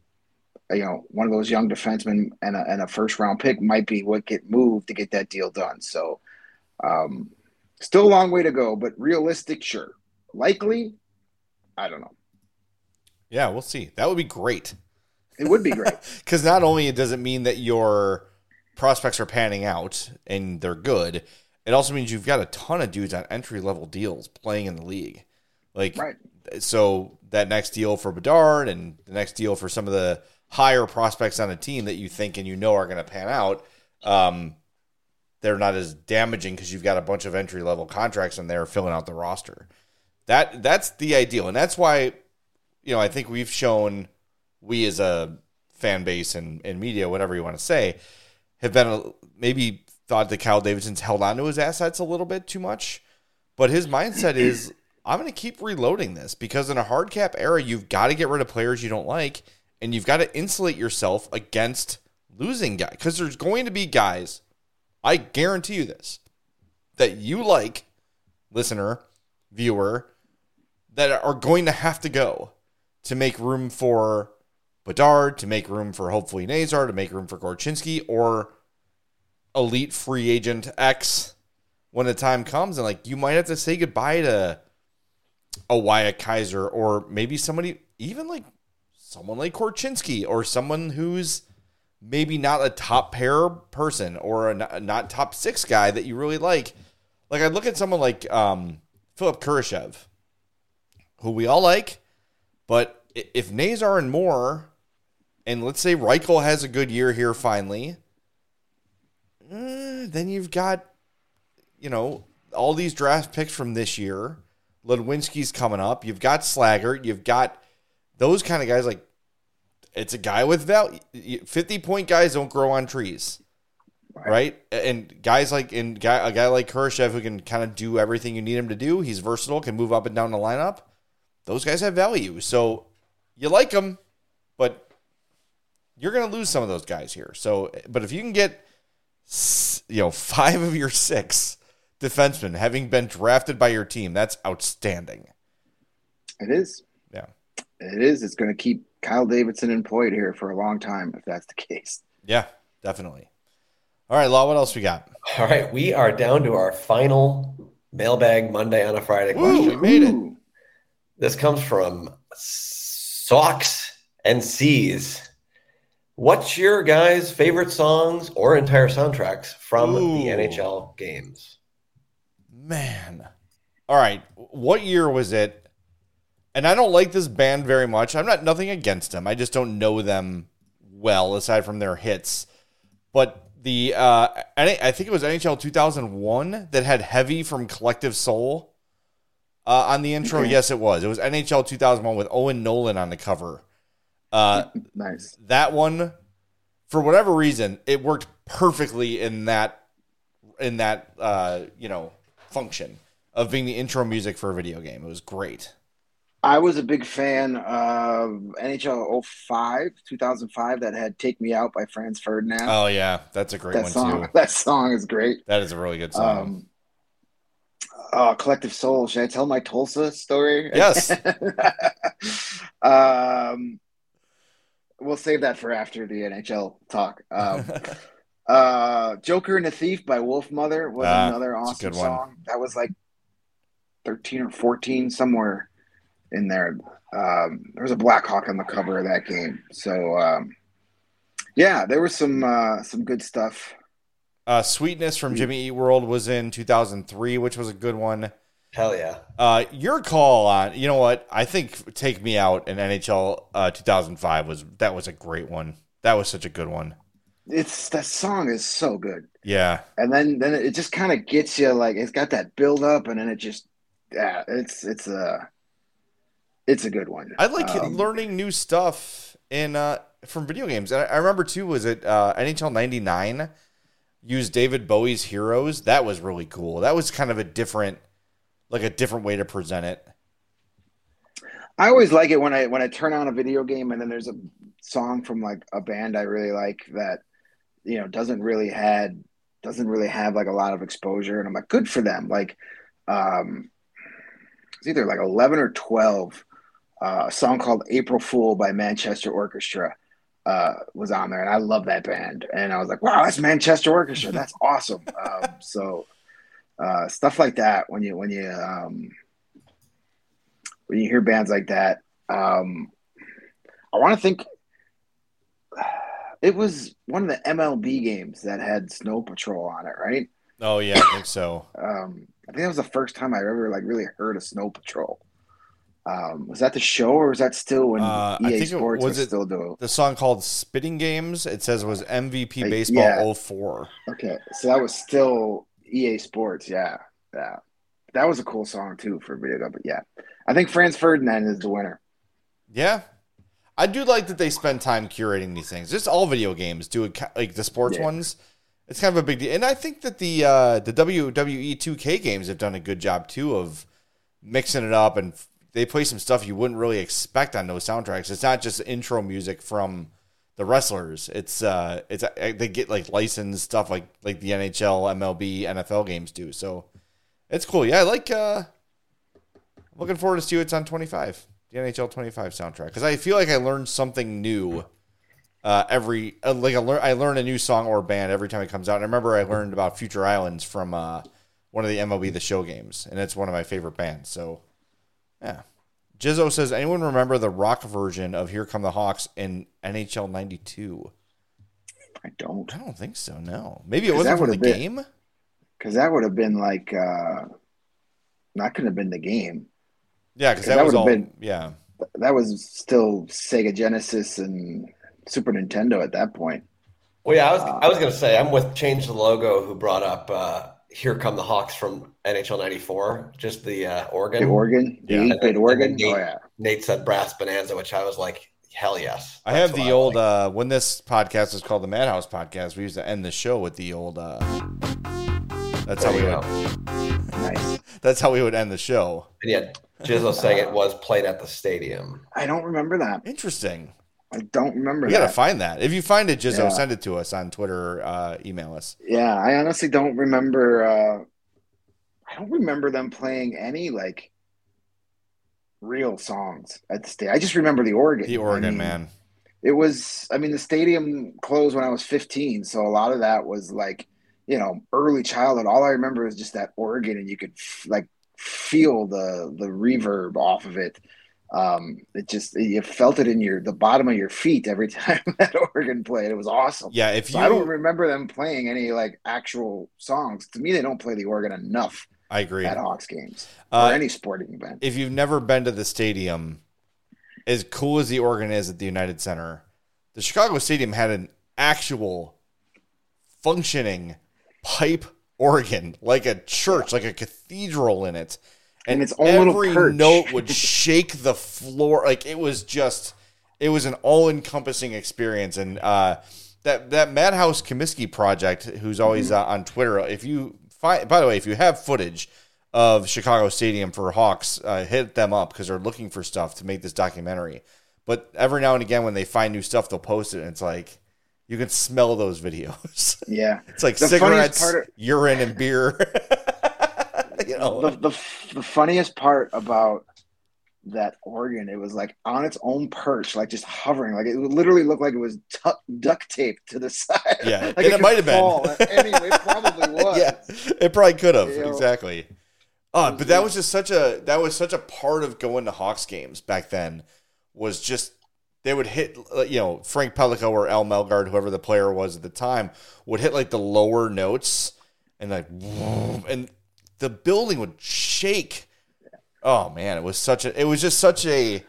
You know, one of those young defensemen and a, and a first round pick might be what get moved to get that deal done. So um, still a long way to go, but realistic, sure. Likely, I don't know. Yeah, we'll see. That would be great. It would be great. Because not only does it mean that your prospects are panning out and they're good, it also means you've got a ton of dudes on entry-level deals playing in the league. Like, right. So that next deal for Bedard and the next deal for some of the higher prospects on a team that you think and you know are going to pan out, um, they're not as damaging because you've got a bunch of entry-level contracts in there filling out the roster. That That's the ideal. And that's why, you know, I think we've shown, we as a fan base and, and media, whatever you want to say, have been a, maybe thought that Kyle Davidson's held on to his assets a little bit too much. But his mindset is, I'm going to keep reloading this because in a hard cap era, you've got to get rid of players you don't like, and you've got to insulate yourself against losing guys. Because there's going to be guys, I guarantee you this, that you like, listener, viewer, that are going to have to go to make room for Bedard, to make room for hopefully Nazar, to make room for Korchinski, or elite free agent X when the time comes. And like, you might have to say goodbye to a Wyatt Kaiser, or maybe somebody, even like someone like Korchinski or someone who's maybe not a top pair person or a not, not top six guy that you really like. Like I look at someone like um, Philip Kurashev, who we all like, but if Nazar and Moore, and let's say Reichel has a good year here finally, eh, then you've got, you know, all these draft picks from this year. Ludwinski's coming up. You've got Slaggert. You've got those kind of guys. Like, it's a guy with value. fifty-point guys don't grow on trees, right? right? And guys like and guy, a guy like Kurashev who can kind of do everything you need him to do. He's versatile, can move up and down the lineup. Those guys have value. So you like them, but you're going to lose some of those guys here. So, but if you can get, you know, five of your six defensemen having been drafted by your team, that's outstanding. It is. Yeah. It is. It's going to keep Kyle Davidson employed here for a long time if that's the case. Yeah, definitely. All right, Law, what else we got? All right, we are down to our final Mailbag Monday on a Friday question. Ooh, we made it. This comes from Socks and C's. What's your guys' favorite songs or entire soundtracks from Ooh. the N H L games? Man. All right. What year was it? And I don't like this band very much. I'm not nothing against them. I just don't know them well aside from their hits. But the uh, I think it was N H L two thousand one that had Heavy from Collective Soul uh, on the intro. Okay. Yes, it was. It was N H L two thousand one with Owen Nolan on the cover. Uh, nice. That one, for whatever reason, it worked perfectly in that in that uh, you know function of being the intro music for a video game. It was great. I was a big fan of N H L oh five, two thousand five, that had "Take Me Out" by Franz Ferdinand. Oh yeah, that's a great that one song, too. That song is great. That is a really good song. Um, oh, Collective Soul. Should I tell my Tulsa story? Yes. um, we'll save that for after the N H L talk. Um, uh, Joker and the Thief by Wolfmother was Ah, another that's a awesome good one. song. That was like thirteen or fourteen, somewhere in there. Um, there was a Black Hawk on the cover of that game. So, um, yeah, there was some uh, some good stuff. Uh, Sweetness from Jimmy Eat World was in two thousand three, which was a good one. Hell yeah. Uh, your call on, you know what? I think Take Me Out in N H L uh, two thousand five was, that was a great one. That was such a good one. It's that song is so good. Yeah. And then then it just kind of gets you, like, it's got that build up, and then it just yeah, it's it's a it's a good one. I like um, learning new stuff in uh, from video games. I, I remember too, was it uh, N H L ninety-nine used David Bowie's Heroes? That was really cool. That was kind of a different, like a different way to present it. I always like it when I when I turn on a video game and then there's a song from like a band I really like that, you know, doesn't really had doesn't really have like a lot of exposure, and I'm like, good for them. Like, um, it's either like eleven or twelve. Uh, a song called "April Fool" by Manchester Orchestra uh, was on there, and I love that band. And I was like, wow, that's Manchester Orchestra. That's awesome. Um, so uh, stuff like that when you when you um, when you hear bands like that, um, I want to think. It was one of the M L B games that had Snow Patrol on it, right? Oh yeah, I think so. Um, I think that was the first time I ever like really heard of Snow Patrol. Um, was that the show, or was that still when Uh, I E A think it- Sports was was it- still doing? The song called Spitting Games, it says was M V P Uh, Baseball yeah. oh four. Okay, so that was still E A Sports. Yeah, yeah, that was a cool song too for a video game. But yeah, I think Franz Ferdinand is the winner. Yeah. I do like that they spend time curating these things. Just all video games do it, like the sports Yeah. ones. It's kind of a big deal. And I think that the uh, the W W E two K games have done a good job too of mixing it up, and they play some stuff you wouldn't really expect on those soundtracks. It's not just intro music from the wrestlers. It's uh it's they get like licensed stuff like like the N H L, M L B, N F L games do. So it's cool. Yeah, I like uh looking forward to see what's on twenty-five. The N H L twenty-five soundtrack, because I feel like I learned something new uh, every uh, like I learn I learn a new song or band every time it comes out. And I remember I learned about Future Islands from uh, one of the M L B The Show games, and it's one of my favorite bands. So yeah, Jizzo says, anyone remember the rock version of Here Come the Hawks in N H L ninety-two? I don't. I don't think so, no. Maybe it wasn't from the been, game? Because that would have been like, uh, that could have been the game. Yeah, because that, that was all, been, yeah. That was still Sega Genesis and Super Nintendo at that point. Well, yeah, I was, uh, I was going to say, I'm with Change the Logo, who brought up uh, Here Come the Hawks from N H L ninety-four, just the uh, organ. The organ? The yeah. eight-bit organ? Nate, oh, yeah. Nate said Brass Bonanza, which I was like, hell yes. I have the I old, like. uh, when this podcast is called the Madhouse Podcast, we used to end the show with the old, uh, that's there how we go. would. Nice. That's how we would end the show. And yeah, Jizzo saying it was played at the stadium. I don't remember that. Interesting. I don't remember we that. We got to find that. If you find it, Jizzo, yeah. send it to us on Twitter or uh, email us. Yeah, I honestly don't remember. Uh, I don't remember them playing any, like, real songs at the stadium. I just remember the organ. The organ, I mean, man. It was, I mean, the stadium closed when I was fifteen, so a lot of that was, like, you know, early childhood. All I remember is just that organ, and you could, like, feel the the reverb off of it. Um, it just, you felt it in your, the bottom of your feet every time that organ played. It was awesome. Yeah. If you, so I don't remember them playing any like actual songs. To me, they don't play the organ enough. I agree. At Hawks games or uh, any sporting event. If you've never been to the stadium, as cool as the organ is at the United Center, the Chicago Stadium had an actual functioning pipe organ, like a church, yeah. like a cathedral in it. And, and its own every little note would shake the floor. Like it was just, it was an all-encompassing experience. And uh, that that Madhouse Comiskey project, who's always mm-hmm. uh, on Twitter, if you find, by the way, if you have footage of Chicago Stadium for Hawks, uh, hit them up because they're looking for stuff to make this documentary. But every now and again, when they find new stuff, they'll post it, and it's like you can smell those videos. Yeah, it's like the cigarettes, of- urine, and beer. You know. the, the the funniest part about that organ, it was like on its own perch, like just hovering, like it literally looked like it was t- duct taped to the side. Yeah, like and it, it might have been. Anyway, it probably was. Yeah, it probably could have. You know, exactly. Oh, but that was just such a that was such a part of going to Hawks games back then. Was just they would hit, you know, Frank Pellico or Al Melgard, whoever the player was at the time, would hit like the lower notes and like and. The building would shake. Oh man, it was such a. It was just such a.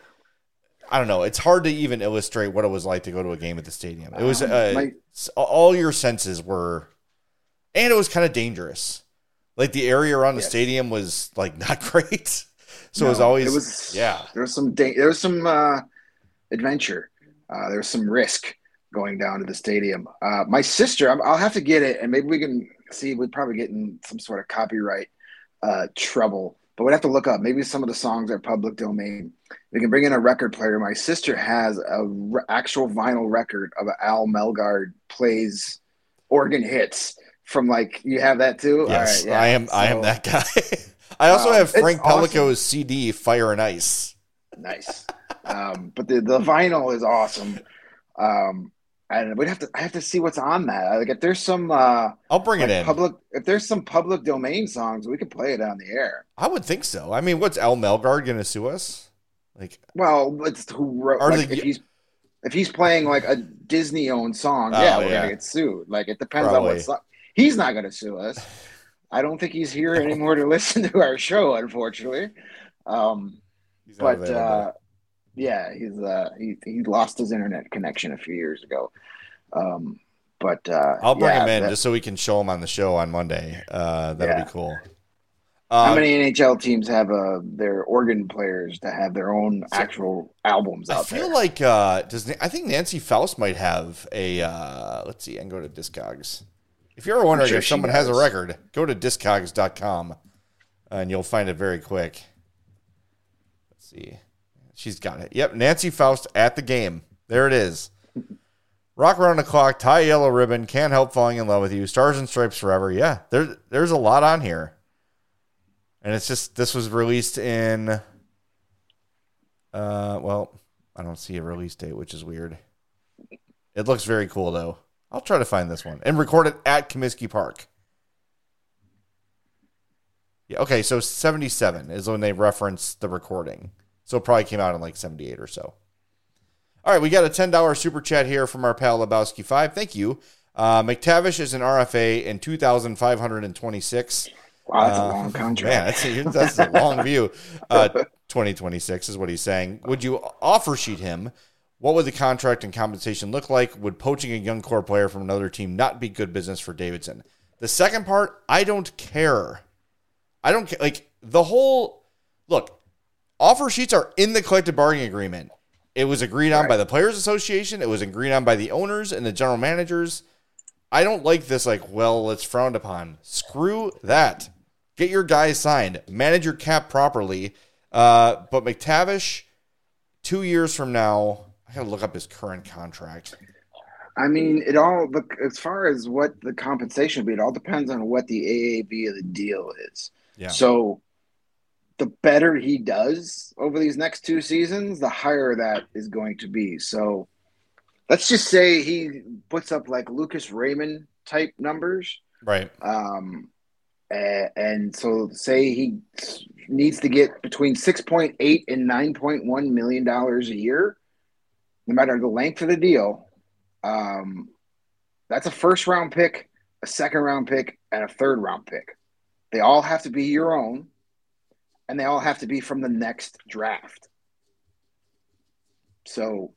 I don't know. It's hard to even illustrate what it was like to go to a game at the stadium. It was uh, My, all your senses were, and it was kind of dangerous. Like the area around the yes. stadium was like not great. So no, it was always. It was yeah. There was some. Da- there was some uh, adventure. Uh, there was some risk going down to the stadium. Uh, my sister. I'll have to get it, and maybe we can see. We'd probably get in some sort of copyright. Uh, trouble, but we'd have to look up. Maybe some of the songs are public domain. We can bring in a record player. My sister has a re- actual vinyl record of Al Melgard plays organ hits from like. You have that too. Yes, All right, yeah. I am. So, I am that guy. I also um, have Frank Pellico's awesome. C D Fire and Ice. Nice, um, but the the vinyl is awesome. Um, And we'd have to. I have to see what's on that. Like, if there's some, uh, I'll bring like it in. Public, if there's some public domain songs, we could play it on the air. I would think so. I mean, what's Al Melgard going to sue us? Like, well, it's who wrote. Like, the, if he's if he's playing like a Disney-owned song, oh, yeah, we're yeah. gonna get sued. Like, it depends Probably. on what song. He's not going to sue us. I don't think he's here anymore to listen to our show, unfortunately. Um, but. Uh, Yeah, he's uh he he lost his internet connection a few years ago. Um, but uh, I'll bring yeah, him in that, just so we can show him on the show on Monday. Uh, that'll yeah. be cool. Um, How uh, many N H L teams have uh, their organ players to have their own so actual albums out there? I feel there? like uh, does I think Nancy Faust might have a. Uh, let's see, I can go to Discogs. If you're ever wondering sure if someone has a record, go to discogs dot com and you'll find it very quick. Let's see. She's got it. Yep, Nancy Faust at the game. There it is. Rock Around the Clock, Tie Yellow Ribbon, Can't Help Falling in Love with You, Stars and Stripes Forever. Yeah, there, there's a lot on here. And it's just, this was released in, uh, well, I don't see a release date, which is weird. It looks very cool, though. I'll try to find this one. And record it at Comiskey Park. Yeah, okay, so seventy-seven is when they reference the recording. So it probably came out in like seventy-eight or so. All right, we got a ten dollars super chat here from our pal Lebowski five. Thank you. Uh, McTavish is an R F A in two thousand five hundred twenty-six. Wow, that's uh, a long contract. Man, that's, that's a long view. Uh, twenty twenty-six is what he's saying. Would you offer sheet him? What would the contract and compensation look like? Would poaching a young core player from another team not be good business for Davidson? The second part, I don't care. I don't care. Like, the whole, look, offer sheets are in the collective bargaining agreement. It was agreed on right. by the Players Association. It was agreed on by the owners and the general managers. I don't like this, like, well, it's frowned upon. Screw that. Get your guys signed. Manage your cap properly. Uh, but McTavish, two years from now, I got to look up his current contract. I mean, it all, look, as far as what the compensation would be, it all depends on what the A A V of the deal is. Yeah. So the better he does over these next two seasons, the higher that is going to be. So let's just say he puts up like Lucas Raymond type numbers. Right. Um, and, and so say he needs to get between six point eight and nine point one million dollars a year, no matter the length of the deal. Um, that's a first round pick, a second round pick, and a third round pick. They all have to be your own. And they all have to be from the next draft. So,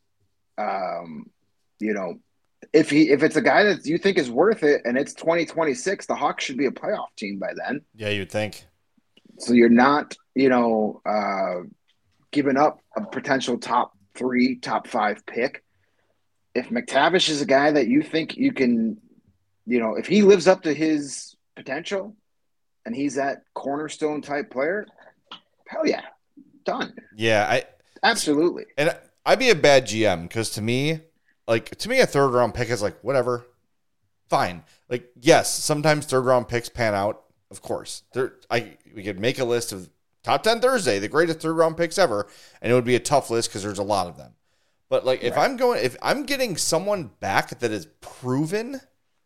um, you know, if he if it's a guy that you think is worth it and it's twenty twenty-six, the Hawks should be a playoff team by then. Yeah, you'd think. So you're not, you know, uh, giving up a potential top three, top five pick. If McTavish is a guy that you think you can, you know, if he lives up to his potential and he's that cornerstone type player, hell yeah, done. Yeah, I absolutely. And I'd be a bad G M because to me, like to me, a third round pick is like whatever, fine. Like yes, sometimes third round picks pan out. Of course, there. I we could make a list of top ten Thursday, the greatest third round picks ever, and it would be a tough list because there's a lot of them. But like if right. I'm going, if I'm getting someone back that is proven,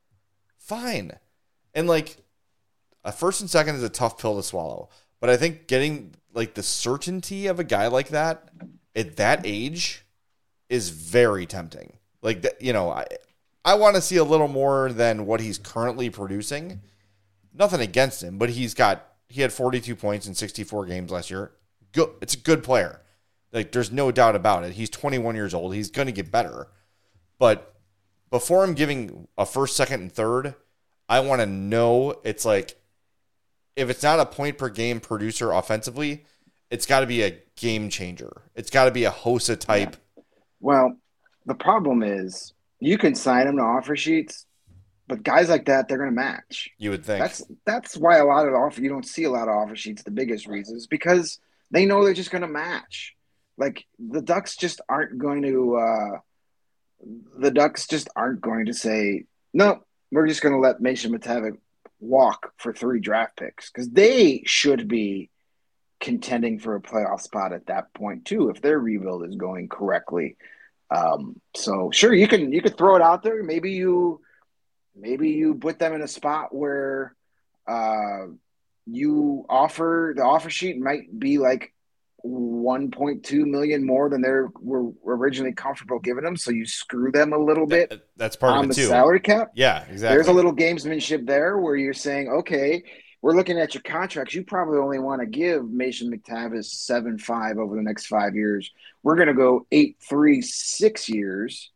fine. And like a first and second is a tough pill to swallow. But I think getting like the certainty of a guy like that at that age is very tempting. Like, you know, I I want to see a little more than what he's currently producing. Nothing against him, but he's got he had forty-two points in sixty-four games last year. Good, it's a good player. Like, there's no doubt about it. He's twenty-one years old. He's going to get better. But before I'm giving a first, second, and third, I want to know it's like, if it's not a point per game producer offensively, it's got to be a game changer. It's got to be a Hossa type. Yeah. Well, the problem is you can sign them to offer sheets, but guys like that, they're going to match. You would think. That's that's why a lot of the offer you don't see a lot of offer sheets. The biggest reason is because they know they're just going to match. Like the Ducks just aren't going to. Uh, the Ducks just aren't going to say no. We're just going to let Mason McTavish walk for three draft picks because they should be contending for a playoff spot at that point too if their rebuild is going correctly. Um, so sure, you can you could throw it out there. Maybe you maybe you put them in a spot where uh, you offer the offer sheet might be like one point two million more than they were originally comfortable giving them. So you screw them a little bit. That, that's part on of it the too. Salary cap. Yeah, exactly. There's a little gamesmanship there where you're saying, okay, we're looking at your contracts. You probably only want to give Mason McTavish seven five over the next five years. We're going to go eight three six years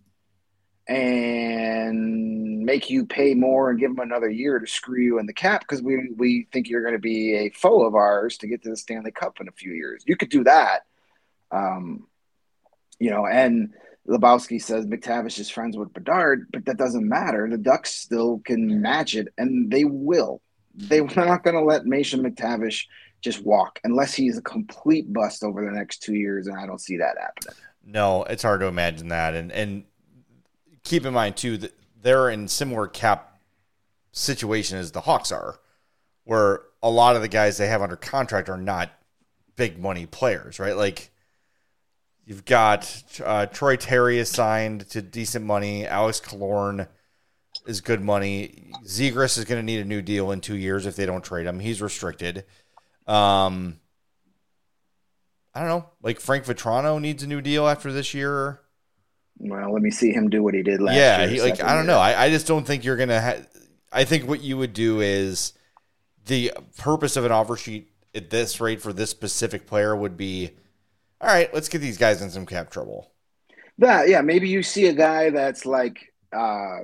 and make you pay more and give them another year to screw you in the cap because we we think you're going to be a foe of ours to get to the Stanley Cup in a few years. You could do that. Um, you know, and Lebowski says McTavish is friends with Bedard, but that doesn't matter. The Ducks still can match it, and they will. They're not going to let Mason McTavish just walk unless he's a complete bust over the next two years, and I don't see that happening. No, it's hard to imagine that. And and keep in mind, too, that they're in similar cap situation as the Hawks are, where a lot of the guys they have under contract are not big money players, right? Like, you've got uh, Troy Terry is signed to decent money. Alex Killorn is good money. Zegras is going to need a new deal in two years if they don't trade him. He's restricted. Um, I don't know, like Frank Vetrano needs a new deal after this year. Well, let me see him do what he did last yeah, year. Yeah, like I don't year. know. I, I just don't think you're gonna. Ha- I think what you would do is the purpose of an offer sheet at this rate for this specific player would be, all right, let's get these guys in some cap trouble. That yeah, maybe you see a guy that's like, uh,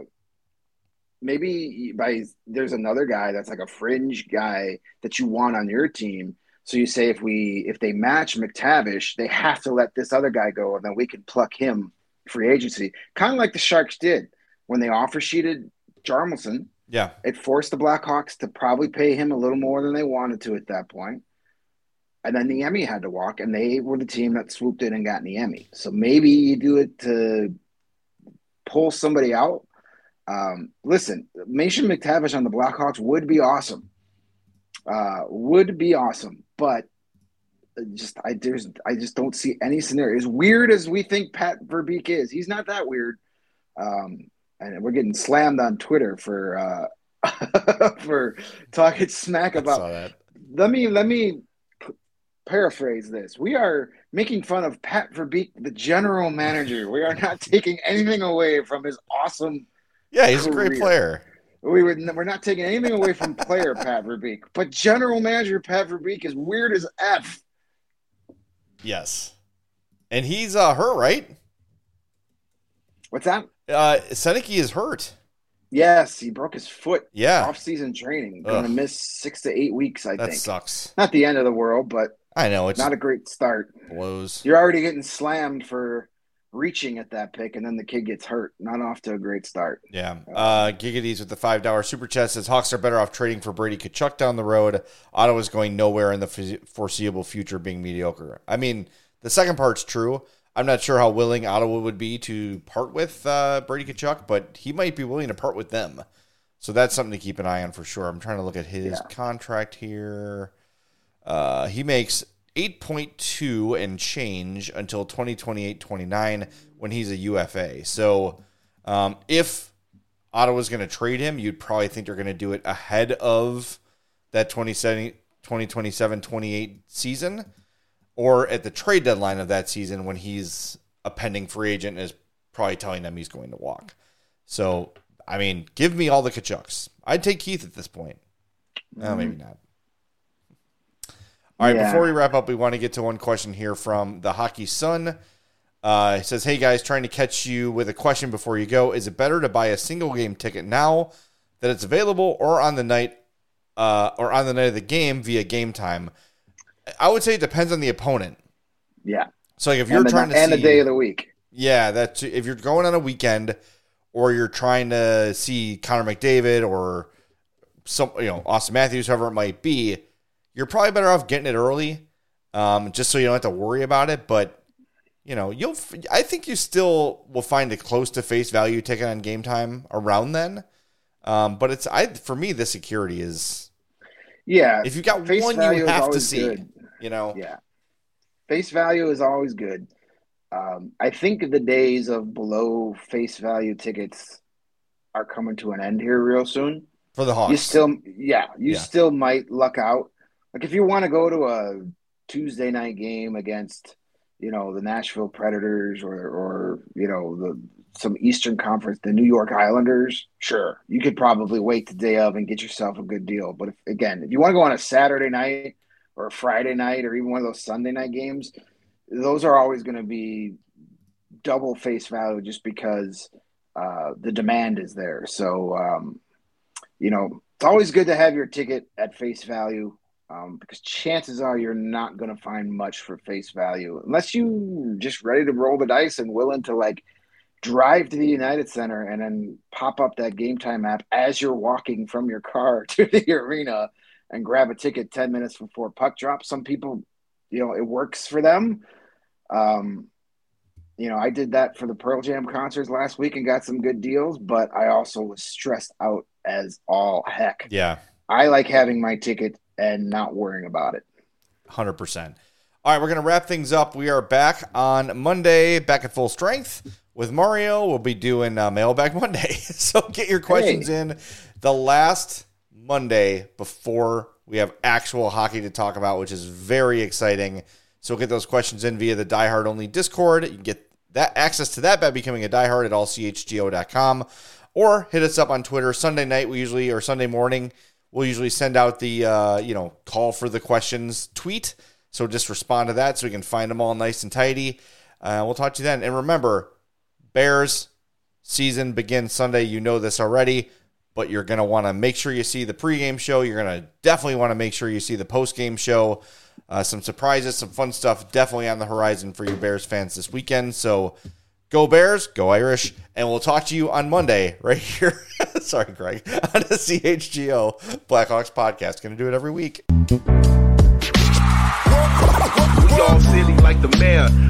maybe by there's another guy that's like a fringe guy that you want on your team. So you say if we if they match McTavish, they have to let this other guy go, and then we can pluck him free agency, kind of like the Sharks did when they offer sheeted Jarmelson. Yeah, it forced the Blackhawks to probably pay him a little more than they wanted to at that point. And then Niemi had to walk, and they were the team that swooped in and got Niemi. So maybe you do it to pull somebody out. Um, listen, Mason McTavish on the Blackhawks would be awesome. Uh, would be awesome, but just I there's I just don't see any scenario. As weird as we think Pat Verbeek is, he's not that weird. Um, and we're getting slammed on Twitter for uh, for talking smack about. Let me let me p- paraphrase this. We are making fun of Pat Verbeek, the general manager. We are not taking anything away from his awesome. Yeah, he's career. a great player. We were we're not taking anything away from player Pat Verbeek, but general manager Pat Verbeek is weird as F. Yes, and he's uh, hurt, right? What's that? Uh, Seneke is hurt. Yes, he broke his foot. Yeah, off-season training. Going to miss six to eight weeks. I that think that sucks. Not the end of the world, but I know it's not a great start. Blows. You're already getting slammed for reaching at that pick, and then the kid gets hurt. Not off to a great start. Yeah. Uh, Gigady's with the five dollar super chat says Hawks are better off trading for Brady Tkachuk down the road. Ottawa's going nowhere in the foreseeable future, being mediocre. I mean, the second part's true. I'm not sure how willing Ottawa would be to part with uh, Brady Tkachuk, but he might be willing to part with them. So that's something to keep an eye on for sure. I'm trying to look at his yeah. contract here. Uh, he makes eight point two and change until twenty twenty-eight twenty-nine when he's a U F A. So um, if Ottawa's going to trade him, you'd probably think they're going to do it ahead of that twenty twenty-seven twenty-eight season or at the trade deadline of that season when he's a pending free agent and is probably telling them he's going to walk. So, I mean, give me all the Tkachuks. I'd take Keith at this point. Mm-hmm. No, maybe not. All right, yeah. Before we wrap up, we want to get to one question here from the Hockey Sun. Uh, it says, hey, guys, trying to catch you with a question before you go. Is it better to buy a single game ticket now that it's available or on the night uh, or on the night of the game via Game Time? I would say it depends on the opponent. Yeah. So like if you're and trying the, to and see... And the day of the week. Yeah, that's if you're going on a weekend or you're trying to see Connor McDavid or some, you know, Austin Matthews, whoever it might be, you're probably better off getting it early, um, just so you don't have to worry about it. But you know, you'll. I think you still will find a close to face value ticket on Game Time around then. Um, but it's I for me, the security is. Yeah, if you got one, you have to see. Good. You know. Yeah, face value is always good. Um, I think the days of below face value tickets are coming to an end here real soon. For the Hawks, you still, yeah, you yeah. still might luck out. Like if you want to go to a Tuesday night game against, you know, the Nashville Predators or, or you know, the some Eastern Conference, the New York Islanders, sure, you could probably wait the day of and get yourself a good deal. But if, again, if you want to go on a Saturday night or a Friday night or even one of those Sunday night games, those are always going to be double face value just because uh, the demand is there. So, um, you know, it's always good to have your ticket at face value. Um, because chances are you're not going to find much for face value unless you just ready to roll the dice and willing to like drive to the United Center and then pop up that Game Time app as you're walking from your car to the arena and grab a ticket ten minutes before puck drop. Some people, you know, it works for them. Um, you know, I did that for the Pearl Jam concerts last week and got some good deals, but I also was stressed out as all heck. Yeah. I like having my ticket and not worrying about it. one hundred percent. All right, we're going to wrap things up. We are back on Monday, back at full strength with Mario. We'll be doing uh, Mailbag Monday. So get your questions hey. in the last Monday before we have actual hockey to talk about, which is very exciting. So get those questions in via the Die Hard Only Discord. You can get that access to that by becoming a diehard at all c h g o dot com, or hit us up on Twitter. Sunday night, we usually, or Sunday morning, we'll usually send out the, uh, you know, call for the questions tweet. So just respond to that so we can find them all nice and tidy. Uh, we'll talk to you then. And remember, Bears season begins Sunday. You know this already, but you're going to want to make sure you see the pregame show. You're going to definitely want to make sure you see the postgame show. Uh, some surprises, some fun stuff definitely on the horizon for you Bears fans this weekend. So go Bears, go Irish, and we'll talk to you on Monday right here. Sorry, Greg. On the C H G O Blackhawks podcast. Going to do it every week. We all silly like the mayor.